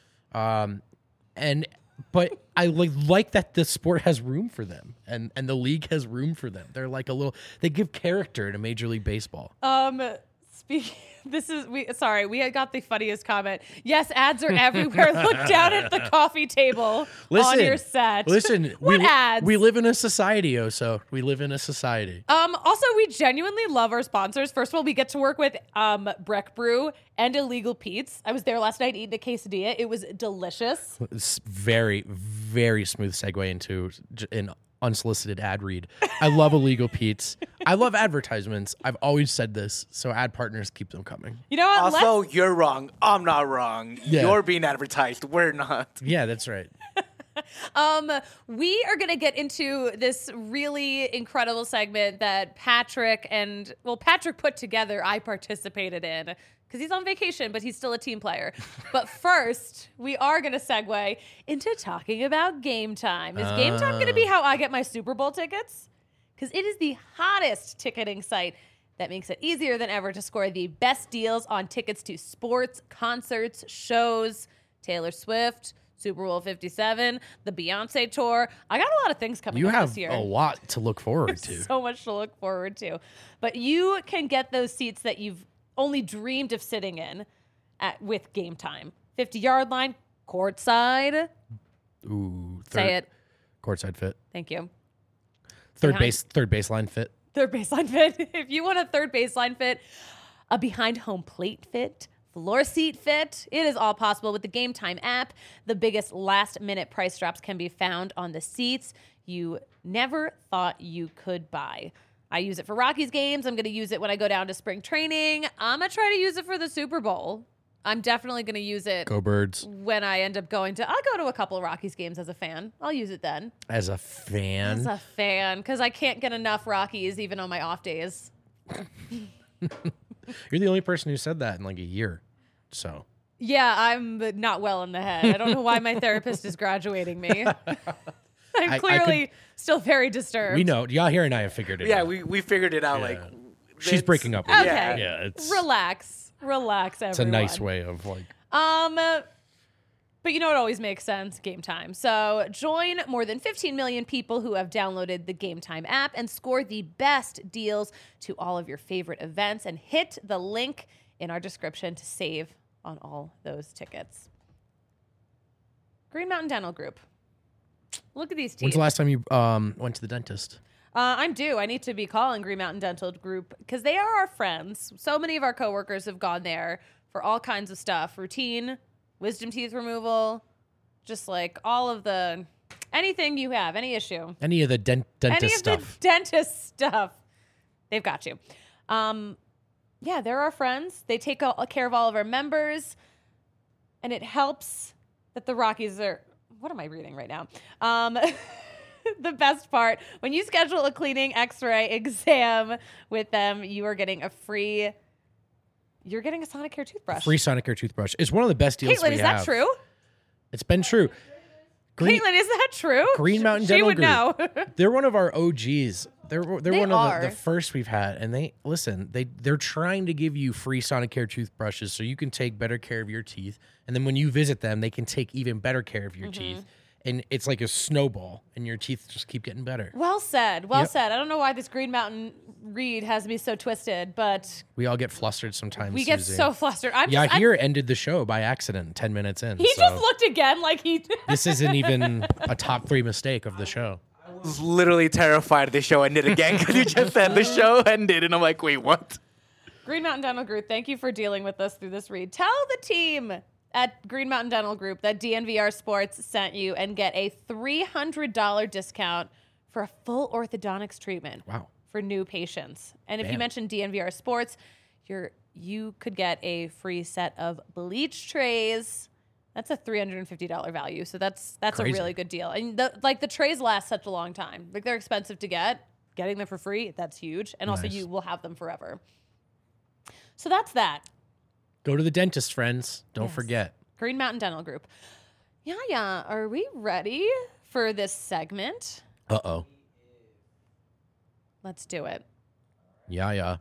But I like that the sport has room for them, and the league has room for them. They're like they give character to Major League Baseball. We had got the funniest comment. Yes, ads are everywhere. Look down at the coffee table on your set. Listen, what ads? We live in a society, Oso. We live in a society. Also, we genuinely love our sponsors. First of all, we get to work with Breck Brew and Illegal Pete's. I was there last night eating a quesadilla. It was delicious. It's very, very smooth segue into an unsolicited ad read. I love Illegal Pete's. I love advertisements. I've always said this, so ad partners, keep them coming. You know what? Also, you're wrong. I'm not wrong. Yeah. You're being advertised. We're not. Yeah, that's right. We are going to get into this really incredible segment that Patrick put together. I participated in because he's on vacation, but he's still a team player. But first, we are going to segue into talking about Game Time. Is Game Time going to be how I get my Super Bowl tickets? Because it is the hottest ticketing site that makes it easier than ever to score the best deals on tickets to sports, concerts, shows, Taylor Swift, Super Bowl 57, the Beyonce tour. I got a lot of things coming up this year. You have a lot to look forward to. So much to look forward to. But you can get those seats that you've only dreamed of sitting in with Game Time. 50-yard line, courtside. Ooh, Say it. Courtside fit. Thank you. Third baseline fit. Third baseline fit. If you want a third baseline fit, a behind home plate fit, floor seat fit, it is all possible with the Game Time app. The biggest last minute price drops can be found on the seats you never thought you could buy. I use it for Rockies games. I'm going to use it when I go down to spring training. I'm going to try to use it for the Super Bowl. I'm definitely going to use it. Go Birds. When I end up I'll go to a couple of Rockies games as a fan. I'll use it then. As a fan? As a fan, because I can't get enough Rockies even on my off days. You're the only person who said that in like a year. So. Yeah, I'm not well in the head. I don't know why my therapist is graduating me. I'm clearly still very disturbed. We know. Y'all and I have figured it out. Yeah, we figured it out. Yeah. Like, she's breaking up with Okay. you. Yeah, it's Relax, everyone. It's a nice way of like. But you know what always makes sense? Game Time. So join more than 15 million people who have downloaded the Game Time app and score the best deals to all of your favorite events, and hit the link in our description to save on all those tickets. Green Mountain Dental Group. Look at these teeth. When's the last time you went to the dentist? I'm due. I need to be calling Green Mountain Dental Group because they are our friends. So many of our coworkers have gone there for all kinds of stuff. Routine, wisdom teeth removal, just like all of the, anything you have, any issue. Any of the dentist stuff. The dentist stuff. They've got you. Yeah, they're our friends. They take care of all of our members. And it helps that the Rockies are, what am I reading right now? The best part, when you schedule a cleaning x-ray exam with them, you're getting a Sonicare toothbrush. Free Sonicare toothbrush. It's one of the best deals Caitlin, we is have. that true? It's been true. Caitlin, is that true? Green Mountain She Dental would Group. know. They're one of our OGs. They're They one are. of the first we've had, and they're trying to give you free Sonicare toothbrushes so you can take better care of your teeth, and then when you visit them, they can take even better care of your teeth, and it's like a snowball, and your teeth just keep getting better. Well said. Well Yep. said. I don't know why this Green Mountain read has me so twisted, but We all get flustered sometimes. we get Susie. so flustered. Yahir ended the show by accident 10 minutes in. He so just looked again like he. this isn't even a top 3 mistake of the show. I was literally terrified the show ended again because you just said the show ended, and I'm like, wait, what? Green Mountain Dental Group, thank you for dealing with us through this read. Tell the team at Green Mountain Dental Group that DNVR Sports sent you and get a $300 discount for a full orthodontics treatment. Wow. For new patients. And if you Damn. mention DNVR Sports, you could get a free set of bleach trays. That's a $350 value. So that's a Crazy. really good deal. And the trays last such a long time. Like, they're expensive to get. Getting them for free, that's huge. And also Nice. you will have them forever. So that's that. Go to the dentist, friends. Don't Yes. forget. Green Mountain Dental Group. Yeah. Are we ready for this segment? Uh-oh. Let's do it. Yeah.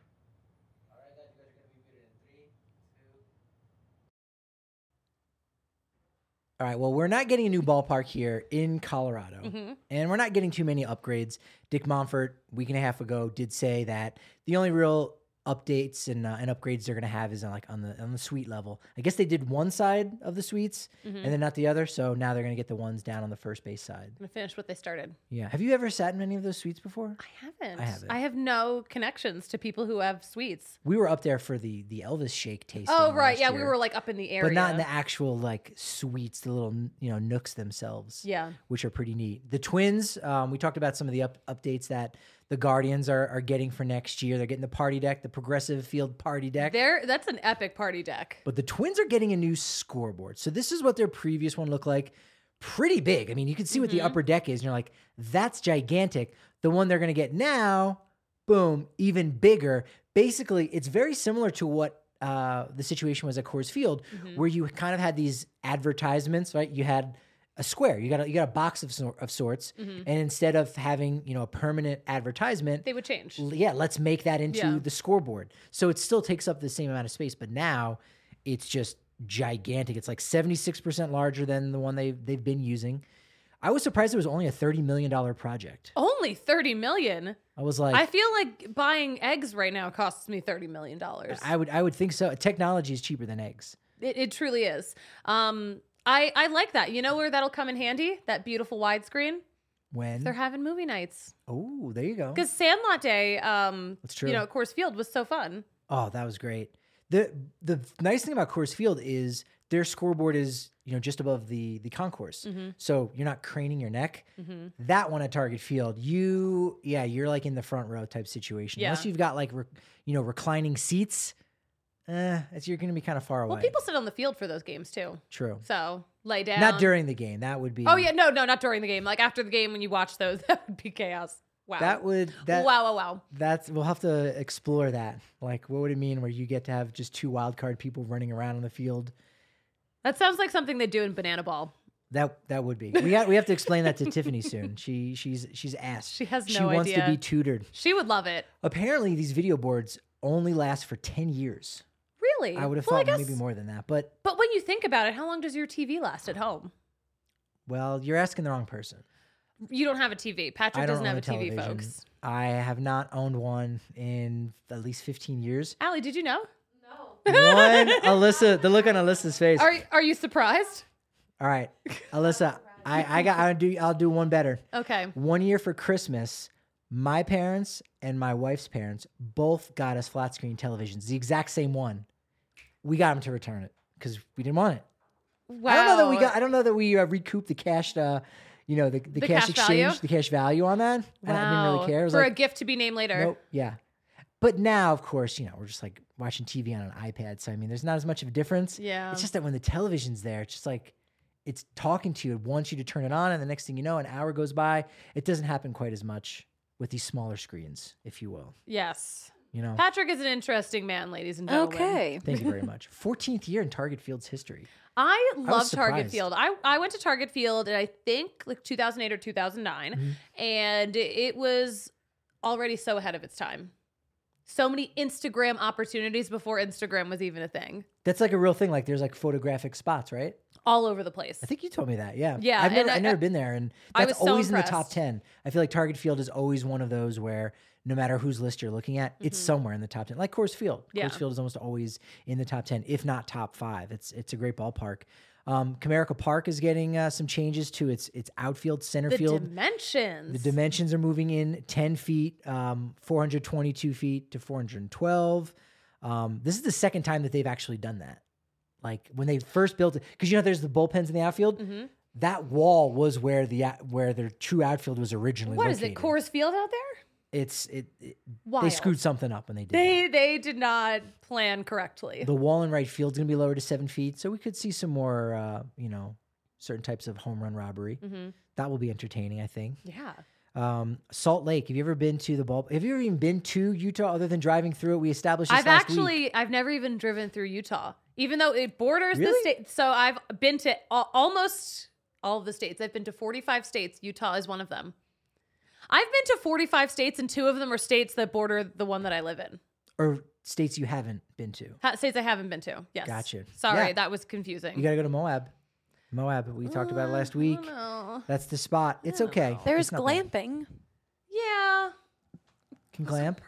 All right, well, we're not getting a new ballpark here in Colorado, and we're not getting too many upgrades. Dick Monfort, a week and a half ago, did say that the only real updates and upgrades they're going to have is on the suite level. I guess they did one side of the suites and then not the other, so now they're going to get the ones down on the first base side. I'm going to finish what they started. Yeah. Have you ever sat in any of those suites before? I haven't. I haven't. I have no connections to people who have suites. We were up there for the Elvis Shake tasting. Oh, right. last Yeah, we year, were like up in the area. but not in the actual like suites, the little nooks themselves. Yeah. Which are pretty neat. The Twins, we talked about some of the updates that the Guardians are getting for next year. They're getting the party deck, the progressive field party deck. That's an epic party deck. But the Twins are getting a new scoreboard. So this is what their previous one looked like. Pretty big. I mean, you can see what the upper deck is, and you're like, that's gigantic. The one they're going to get now, boom, even bigger. Basically, it's very similar to what the situation was at Coors Field, where you kind of had these advertisements, right? You had a square. You got a box of sorts, and instead of having a permanent advertisement, They would change. yeah, let's make that into Yeah. the scoreboard. So it still takes up the same amount of space, but now it's just gigantic. It's like 76% larger than the one they've been using. I was surprised it was only a $30 million project. Only $30 million. I was like, I feel like buying eggs right now costs me $30 million. I would think so. Technology is cheaper than eggs. It truly is. I like that. You know where that'll come in handy? That beautiful widescreen. When? They're having movie nights. Oh, there you go. Because Sandlot Day, That's true. at Coors Field was so fun. Oh, that was great. The nice thing about Coors Field is their scoreboard is just above the concourse, so you're not craning your neck. That one at Target Field, you're like in the front row type situation. Yeah. Unless you've got like reclining seats, you're going to be kind of far away. Well, people sit on the field for those games too. True. So lay down. Not during the game. That would be. Oh yeah, no, not during the game. Like after the game when you watch those, that would be chaos. Wow. Wow. We'll have to explore that. Like, what would it mean where you get to have just two wild card people running around on the field? That sounds like something they do in Banana Ball. That would be. We have to explain that to Tiffany soon. She's asked. She has no She wants idea. to be tutored. She would love it. Apparently, these video boards only last for 10 years. Really? I would have Well, thought I guess- maybe more than that. But, But when you think about it, how long does your TV last at home? well, you're asking the wrong person. You don't have a TV. I Patrick don't doesn't own have a a TV, television. folks. I have not owned one in at least 15 years. Allie, did you know? One, Alyssa, the look on Alyssa's face. Are you surprised? All right, Alyssa, I'll do one better. Okay. One year for Christmas, my parents and my wife's parents both got us flat screen televisions, the exact same one. We got them to return it because we didn't want it. Wow. I don't know that we recouped the cash. The cash cash exchange, value? the cash value on that. I didn't really care. It was For like, a gift to be named later. nope, yeah. But now, of course, we're just like watching TV on an iPad. So I mean, there's not as much of a difference. Yeah. It's just that when the television's there, it's just like it's talking to you. It wants you to turn it on, and the next thing you know, an hour goes by. It doesn't happen quite as much with these smaller screens, if you will. Yes. Patrick is an interesting man, ladies and gentlemen. Okay. Thank you very much. 14th year in Target Field's history. I love Target surprised. Field. I went to Target Field in I think like 2008 or 2009, and it was already so ahead of its time. So many Instagram opportunities before Instagram was even a thing. That's like a real thing. Like there's like photographic spots, right? All over the place. I think you told me that. Yeah. Yeah, I've and never been there, and I that's was so always in the top impressed. 10. I feel like Target Field is always one of those where no matter whose list you're looking at, it's somewhere in the top 10. Like Coors Field. Yeah. Coors Field is almost always in the top 10, if not top 5. It's a great ballpark. Comerica Park is getting some changes to its outfield, center The field. dimensions. The dimensions are moving in 10 feet, 422 feet to 412. This is the second time that they've actually done that. Like when they first built it, because there's the bullpens in the outfield. That wall was where the true outfield was originally What is located. it? Coors Field out there? They Wild. screwed something up when they did that. They did not plan correctly. The wall in right field is going to be lowered to 7 feet, so we could see some more, certain types of home run robbery. That will be entertaining, I think. Yeah. Salt Lake. Have you ever been to the ball? Have you ever even been to Utah other than driving through it? We established this last week. I've never even driven through Utah, even though it borders the Really? state. So I've been to almost all of the states. I've been to 45 states. Utah is one of them. I've been to 45 states, and 2 of them are states that border the one that I live in. Or states you haven't been to. States I haven't been to. Yes. Gotcha. Sorry, Yeah. that was confusing. You got to go to Moab. Moab. We talked about it last week. No. That's the spot. It's okay. There's It's not bad. glamping. Yeah. Can glamp?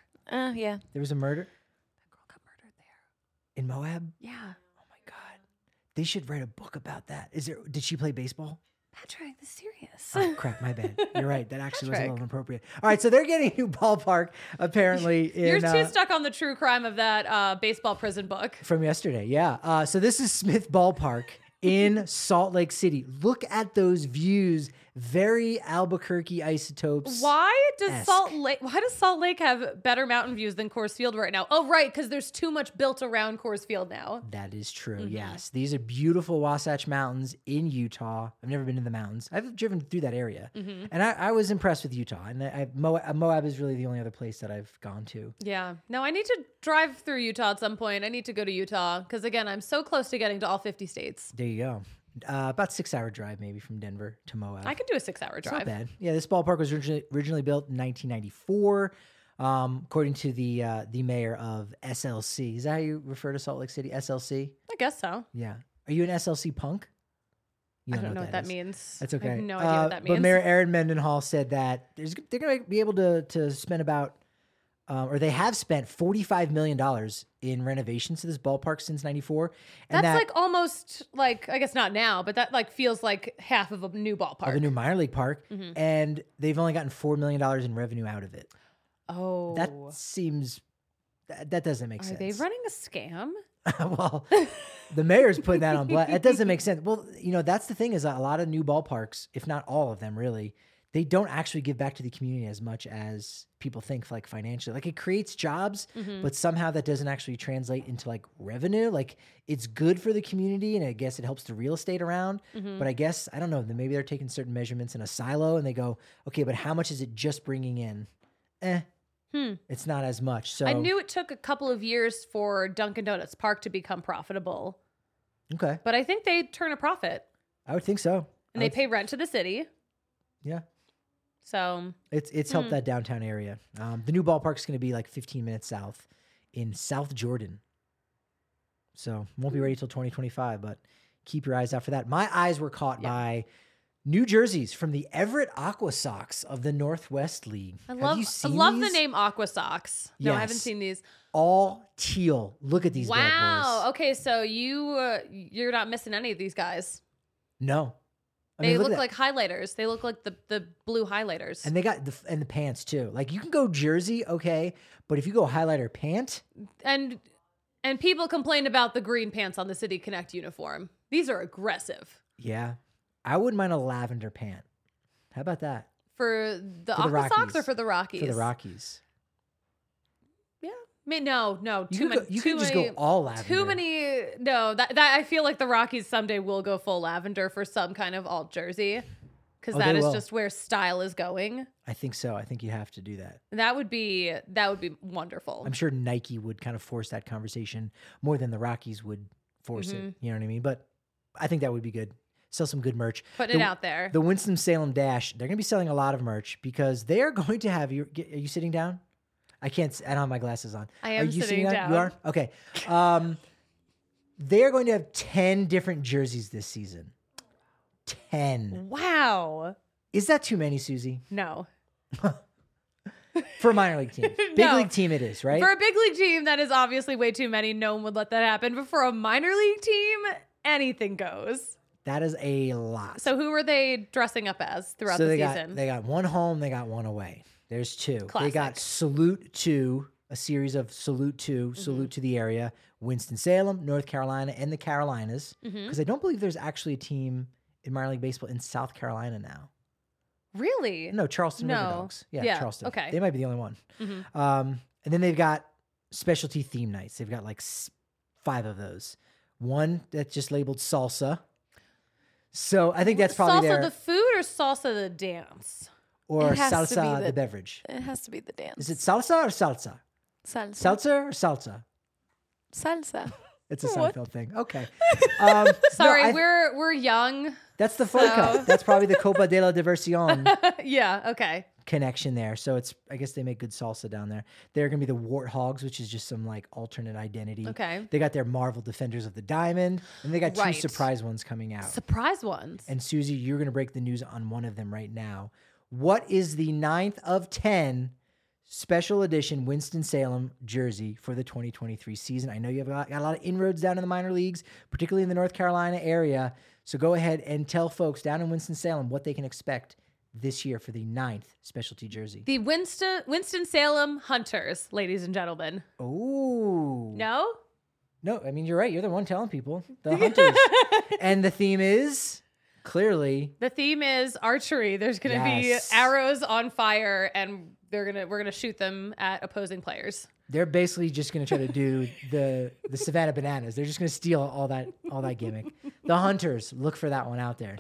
Yeah. There was a murder Girl got murdered there. in Moab. Yeah. Oh my god. They should write a book about that. Did she play baseball? Patrick, this is serious. Oh crap, my bad. You're right. That actually was a Patrick. little inappropriate. All right, so they're getting a new ballpark apparently You're in too stuck on the true crime of that baseball prison book. from yesterday. Yeah. So this is Smith Ballpark in Salt Lake City. Look at those views. Very Albuquerque isotopes. Why does Esque. Salt Lake have better mountain views than Coors Field right now? Oh, right, because there's too much built around Coors Field now. That is true. Mm-hmm. Yes. These are beautiful Wasatch Mountains in Utah. I've never been to the mountains. I've driven through that area. Mm-hmm. And I was impressed with Utah. And Moab is really the only other place that I've gone to. Yeah. No, I need to drive through Utah at some point. I need to go to Utah because, again, I'm so close to getting to all 50 states. There you go. About 6-hour drive maybe from Denver to Moab. I could do a 6-hour It's not drive. bad. Yeah, this ballpark was originally built in 1994, according to the mayor of SLC. Is that how you refer to Salt Lake City? SLC? I guess so. Yeah. Are you an SLC punk? You I don't know what that is. means. That's okay. I have no idea what that means. But Mayor Aaron Mendenhall said that they're going to be able to spend about, or they have spent $45 million in renovations to this ballpark since '94. And That's like almost like, I guess not now, but that like feels like half of a new ballpark. of a new minor league park, Mm-hmm. and they've only gotten $4 million in revenue out of it. Oh. That seems that doesn't make Are sense. they running a scam? Well, the mayor's putting that on blast. It doesn't make sense. Well, that's the thing is a lot of new ballparks, if not all of them really, they don't actually give back to the community as much as people think, like financially. Like it creates jobs, but somehow that doesn't actually translate into like revenue. Like it's good for the community and I guess it helps the real estate around. But I guess, I don't know, maybe they're taking certain measurements in a silo and they go, okay, but how much is it just bringing in? It's not as much. So I knew it took a couple of years for Dunkin' Donuts Park to become profitable, Okay. but I think they turn a profit I would think so. and they pay rent to the city. Yeah. So It's helped that downtown area. The new ballpark is going to be like 15 minutes south in South Jordan. So won't be ready till 2025, but keep your eyes out for that. My eyes were caught by new jerseys from the Everett Aqua Sox of the Northwest League. I Have love you seen the these? name Aqua Sox. No, I haven't Yes. seen these. All teal. Look at these bad Wow. boys. Okay, so you're not missing any of these guys. No. I They mean, look at that. like highlighters. They look like the blue highlighters. And they got the pants too. Like you can go jersey, okay, but if you go highlighter pant, And people complain about the green pants on the City Connect uniform. These are aggressive. yeah, I wouldn't mind a lavender pant. How about that For the For the Aqua Sox or Rockies. for the Rockies? for the Rockies? Yeah. I mean, no, You too could, many. you too could just many, go all lavender. Too many. No, that I feel like the Rockies someday will go full lavender for some kind of alt jersey, because Oh, that they is will. just where style is going. I think so. I think you have to do that. That would be wonderful. I'm sure Nike would kind of force that conversation more than the Rockies would force Mm-hmm. it. You know what I mean? But I think that would be good. Sell some good merch. Putting it out there. The Winston-Salem Dash, they're going to be selling a lot of merch because they are going to have you. Are you sitting down? I can't. I don't have my glasses on. I Are am you sitting down. You are? Okay. They are going to have 10 different jerseys this season. 10. Wow. Is that too many, Susie? No. For a minor league team. Big No. league team it is, right? For a big league team, that is obviously way too many. No one would let that happen. But for a minor league team, anything goes. That is a lot. So who are they dressing up as throughout So the they season? they got one home, they got one away. There's two. They got Classic. Salute to, a series of Salute to, Mm-hmm. Salute to the area, Winston-Salem, North Carolina, and the Carolinas. Mm-hmm. Because I don't believe there's actually a team in minor league baseball in South Carolina now. Really? No, Charleston No. River Dogs. Yeah, Yeah, Charleston. okay. They might be the only one. Mhm. And then they've got specialty theme nights. They've got like 5 of those. One that's just labeled salsa. So I think that's probably salsa their the food or salsa the dance? or It has to be salsa, the- the beverage? It has to be the dance. Is it salsa or salsa? salsa? Seltzer or salsa? Salsa. It's a What? Seinfeld thing. Okay. No, Sorry, we're young. that's the Ford Cup. That's probably the Copa de la Diversión Yeah. Okay. connection there. So it's, I guess they make good salsa down there. They're going to be the Warthogs, which is just some like alternate identity. Okay. They got their Marvel Defenders of the Diamond, and they got Right. 2 surprise ones coming out. Surprise ones. And Susie, you're going to break the news on one of them right now. What is the 9th of 10 special edition Winston-Salem jersey for the 2023 season? I know you've got a lot of inroads down in the minor leagues, particularly in the North Carolina area. So go ahead and tell folks down in Winston-Salem what they can expect this year for the 9th specialty jersey. The Winston-Salem Hunters, ladies and gentlemen. Oh. No? No, I mean, you're right. You're the one telling people. The Hunters. And the theme is clearly The theme is archery. There's going to Yes. be arrows on fire, and we're gonna shoot them at opposing players. they're basically just going to try to do the Savannah Bananas. They're just going to steal all that gimmick. The Hunters, look for that one out there.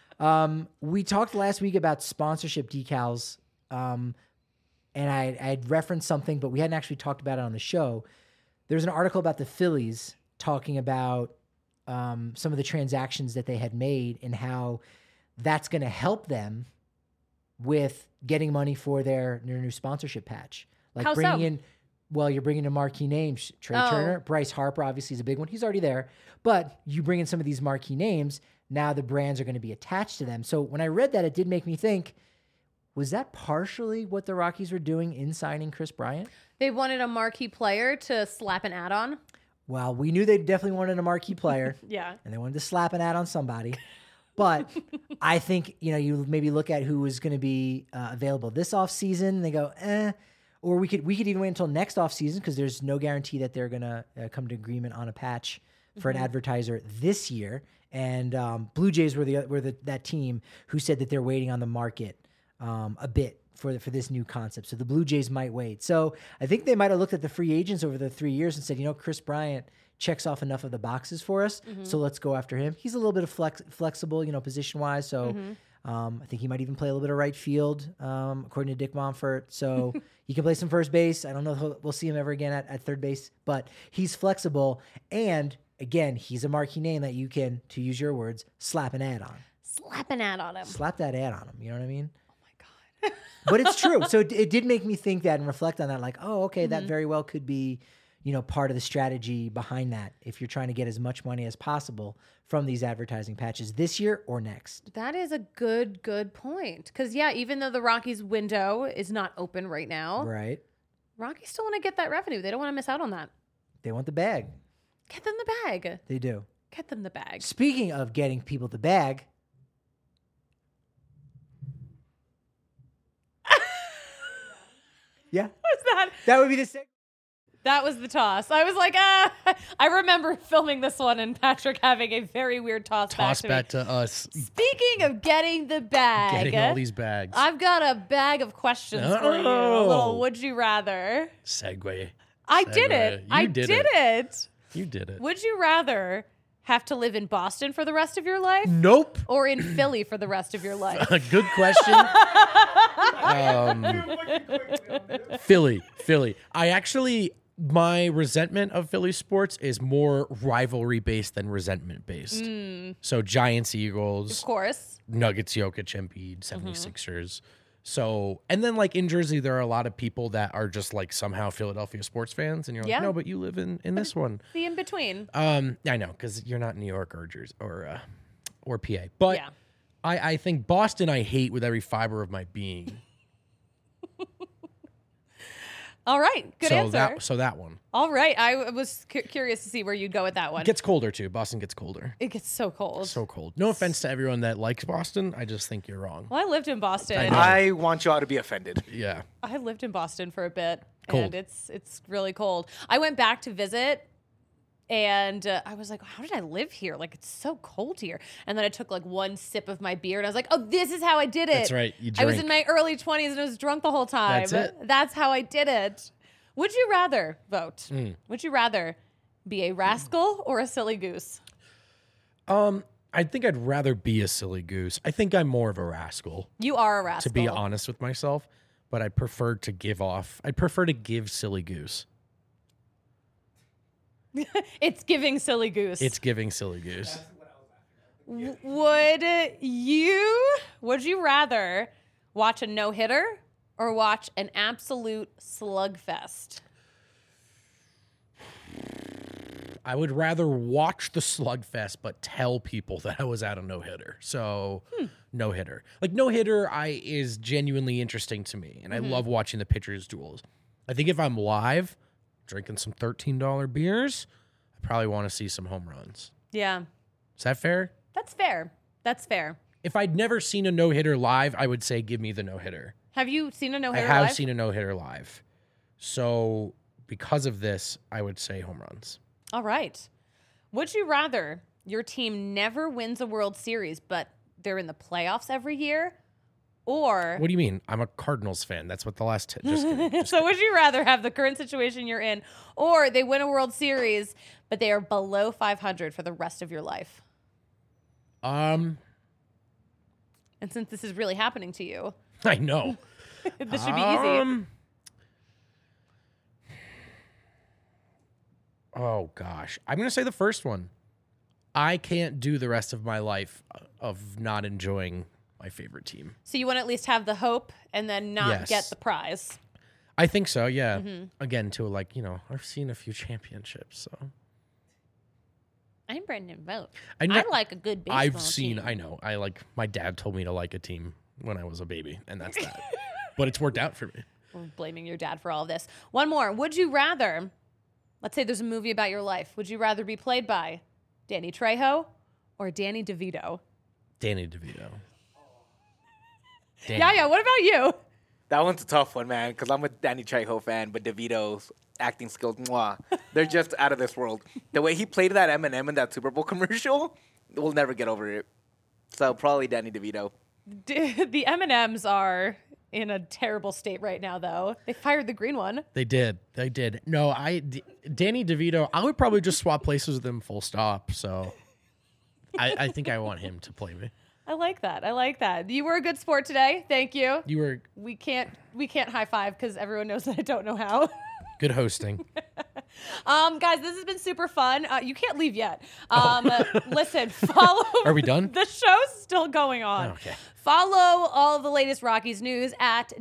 We talked last week about sponsorship decals, and I had referenced something, but we hadn't actually talked about it on the show. There's an article about the Phillies talking about some of the transactions that they had made and how that's going to help them with getting money for their new sponsorship patch. Like How bringing so? in, well, you're bringing in marquee names. Trey Oh. Turner, Bryce Harper, obviously is a big one. He's already there. But you bring in some of these marquee names, now the brands are going to be attached to them. So when I read that, it did make me think, was that partially what the Rockies were doing in signing Chris Bryant? They wanted a marquee player to slap an ad on. Well, we knew they definitely wanted a marquee player. Yeah. And they wanted to slap an ad on somebody. But I think, you maybe look at who was going to be available this offseason and they go, or we could even wait until next offseason because there's no guarantee that they're going to come to agreement on a patch for an advertiser this year. And Blue Jays were that team who said that they're waiting on the market a bit for this new concept. So the Blue Jays might wait. So I think they might have looked at the free agents over the 3 years and said, Chris Bryant checks off enough of the boxes for us, so let's go after him. He's a little bit of flexible, position-wise, so I think he might even play a little bit of right field, according to Dick Monfort. So he can play some first base. I don't know if we'll see him ever again at third base, but he's flexible. And, again, he's a marquee name that you can, to use your words, slap an ad on. Slap an ad on him. Slap that ad on him, you know what I mean? Oh my God. But it's true. So it did make me think that and reflect on that, like, oh, okay, that very well could be, part of the strategy behind that if you're trying to get as much money as possible from these advertising patches this year or next. That is a good point. Because, yeah, even though the Rockies window is not open right now, Right? Rockies still want to get that revenue. They don't want to miss out on that. They want the bag. Get them the bag. They do. Get them the bag. Speaking of getting people the bag, yeah, What's that? that would be the same. That was the toss. I was like, I remember filming this one and Patrick having a very weird toss Toss back back to me. to us. Speaking of getting the bag, Getting all these bags. I've got a bag of questions for you. A Oh. little would you rather. Segue. I did Segue. it. You I did did it. You did it. Would you rather have to live in Boston for the rest of your life Nope. or in Philly for the rest of your life? Good question. Philly. My resentment of Philly sports is more rivalry based than resentment based. So Giants, Eagles, Of course. Nuggets, Jokic, Embiid, 76ers. So, and then like in Jersey, there are a lot of people that are just like somehow Philadelphia sports fans. And you're like, Yeah. no, but you live in this one. The in between. I know, because you're not New York or Jersey or PA. But Yeah. I think Boston I hate with every fiber of my being. All right. Good answer. So that one. All right. I was curious to see where you'd go with that one. It gets colder too. Boston gets colder. It gets so cold. So cold. No offense to everyone that likes Boston. I just think you're wrong. Well, I lived in Boston. I know. I want you all to be offended. Yeah. I lived in Boston for a bit, Cold. and it's really cold. I went back to visit, and I was like, "How did I live here? Like it's so cold here." And then I took like one sip of my beer, and I was like, "Oh, this is how I did it." That's right. You I was drink. in my early 20s, and I was drunk the whole time. That's it. That's how I did it. Would you rather vote? Hmm. Would you rather be a rascal or a silly goose? I think I'd rather be a silly goose. I think I'm more of a rascal, You are a rascal. to be honest with myself, but I'd prefer to give silly goose. It's giving silly goose. It's giving silly goose. Would you rather watch a no-hitter or watch an absolute slugfest? I would rather watch the slugfest, but tell people that I was at a no-hitter. So no-hitter. Like no-hitter is genuinely interesting to me, and I love watching the pitchers' duels. I think if I'm live, drinking some $13 beers, I probably want to see some home runs. Yeah. Is that fair? That's fair. That's fair. If I'd never seen a no-hitter live, I would say give me the no-hitter. Have you seen a I no-hitter have live? seen a no-hitter live. So because of this, I would say home runs. All right. Would you rather your team never wins a World Series, but they're in the playoffs every year? Or What do you mean? I'm a Cardinals fan. That's what the last just kidding. so would you rather have the current situation you're in, or they win a World Series, but they are below 500 for the rest of your life? And since this is really happening to you, I know. this should be easy. Oh gosh, I'm gonna say the first one. I can't do the rest of my life of not enjoying my favorite team. So you want to at least have the hope and then not Yes. get the prize. I think so. Yeah. Again, to I've seen a few championships, so I'm Brendan Vogt. I know- I like a good baseball I've seen. team. I know. I like. My dad told me to like a team when I was a baby, and that's that. But it's worked out for me. We're blaming your dad for all of this. One more. Would you rather, let's say there's a movie about your life. Would you rather be played by Danny Trejo or Danny DeVito? Danny DeVito. Yeah. What about you? That one's a tough one, man, because I'm a Danny Trejo fan, but DeVito's acting skills, mwah, they're just out of this world. The way he played that Eminem in that Super Bowl commercial, we'll never get over it. So probably Danny DeVito. The M&Ms are in a terrible state right now, though. They fired the green one. They did. No, Danny DeVito, I would probably just swap places with him full stop. So I think I want him to play me. I like that. You were a good sport today. Thank you. You were We can't high five because everyone knows that I don't know how. good hosting. Guys, this has been super fun. You can't leave yet. Listen, follow. Are we done? The show's still going on. Okay. Follow all of the latest Rockies news at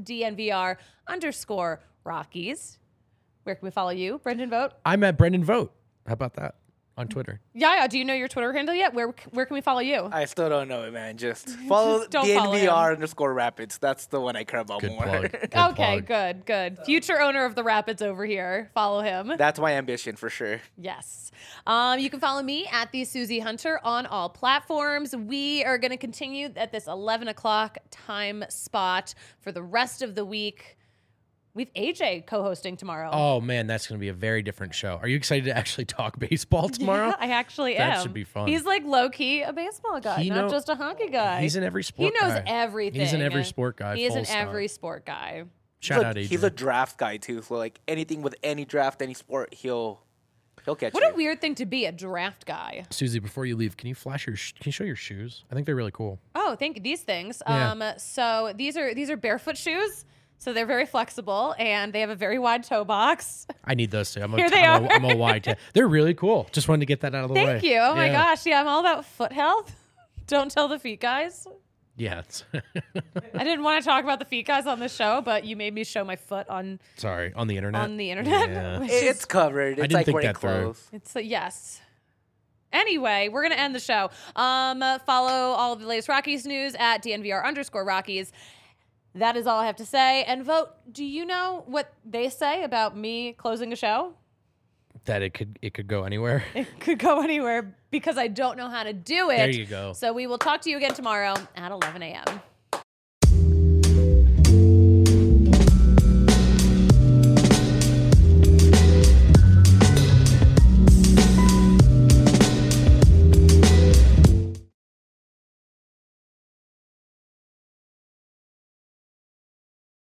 DNVR_Rockies. Where can we follow you, Brendan Vogt? I'm at Brendan Vogt. How about that? On Twitter. Yeah. Do you know your Twitter handle yet? Where can we follow you? I still don't know it, man. Just follow Just don't follow DNVR_Rapids. That's the one I care about Good more. plug. Good Okay, plug. good. Future owner of the Rapids over here. Follow him. That's my ambition for sure. Yes. You can follow me at the Susie Hunter on all platforms. We are going to continue at this 11 o'clock time spot for the rest of the week. We've AJ co-hosting tomorrow. Oh man, that's going to be a very different show. Are you excited to actually talk baseball tomorrow? I actually am. That should be fun. He's like low-key a baseball guy, not just a hockey guy. He's in every sport. He knows guy. everything. He's in every sport guy. He is full in stop. every sport guy. Shout out AJ. He's a draft guy too. So like anything with any draft, any sport, he'll catch What you. a weird thing to be, a draft guy. Susie, before you leave, can you flash can you show your shoes? I think they're really cool. Oh, thank you. These things. Yeah. So these are barefoot shoes. So they're very flexible and they have a very wide toe box. I need those too. Here they are. I'm a wide. They're really cool. Just wanted to get that out of the way. Thank you. Oh my Yeah. gosh. Yeah, I'm all about foot health. Don't tell the feet guys. Yeah. I didn't want to talk about the feet guys on the show, but you made me show my foot on Sorry, on the internet. Yeah. which It's covered. It's didn't like think wearing that through. clothes. It's yes. Anyway, we're going to end the show. Follow all of the latest Rockies news at DNVR_Rockies. That is all I have to say. And Vote, do you know what they say about me closing a show? That it could go anywhere. It could go anywhere because I don't know how to do it. There you go. So we will talk to you again tomorrow at 11 a.m.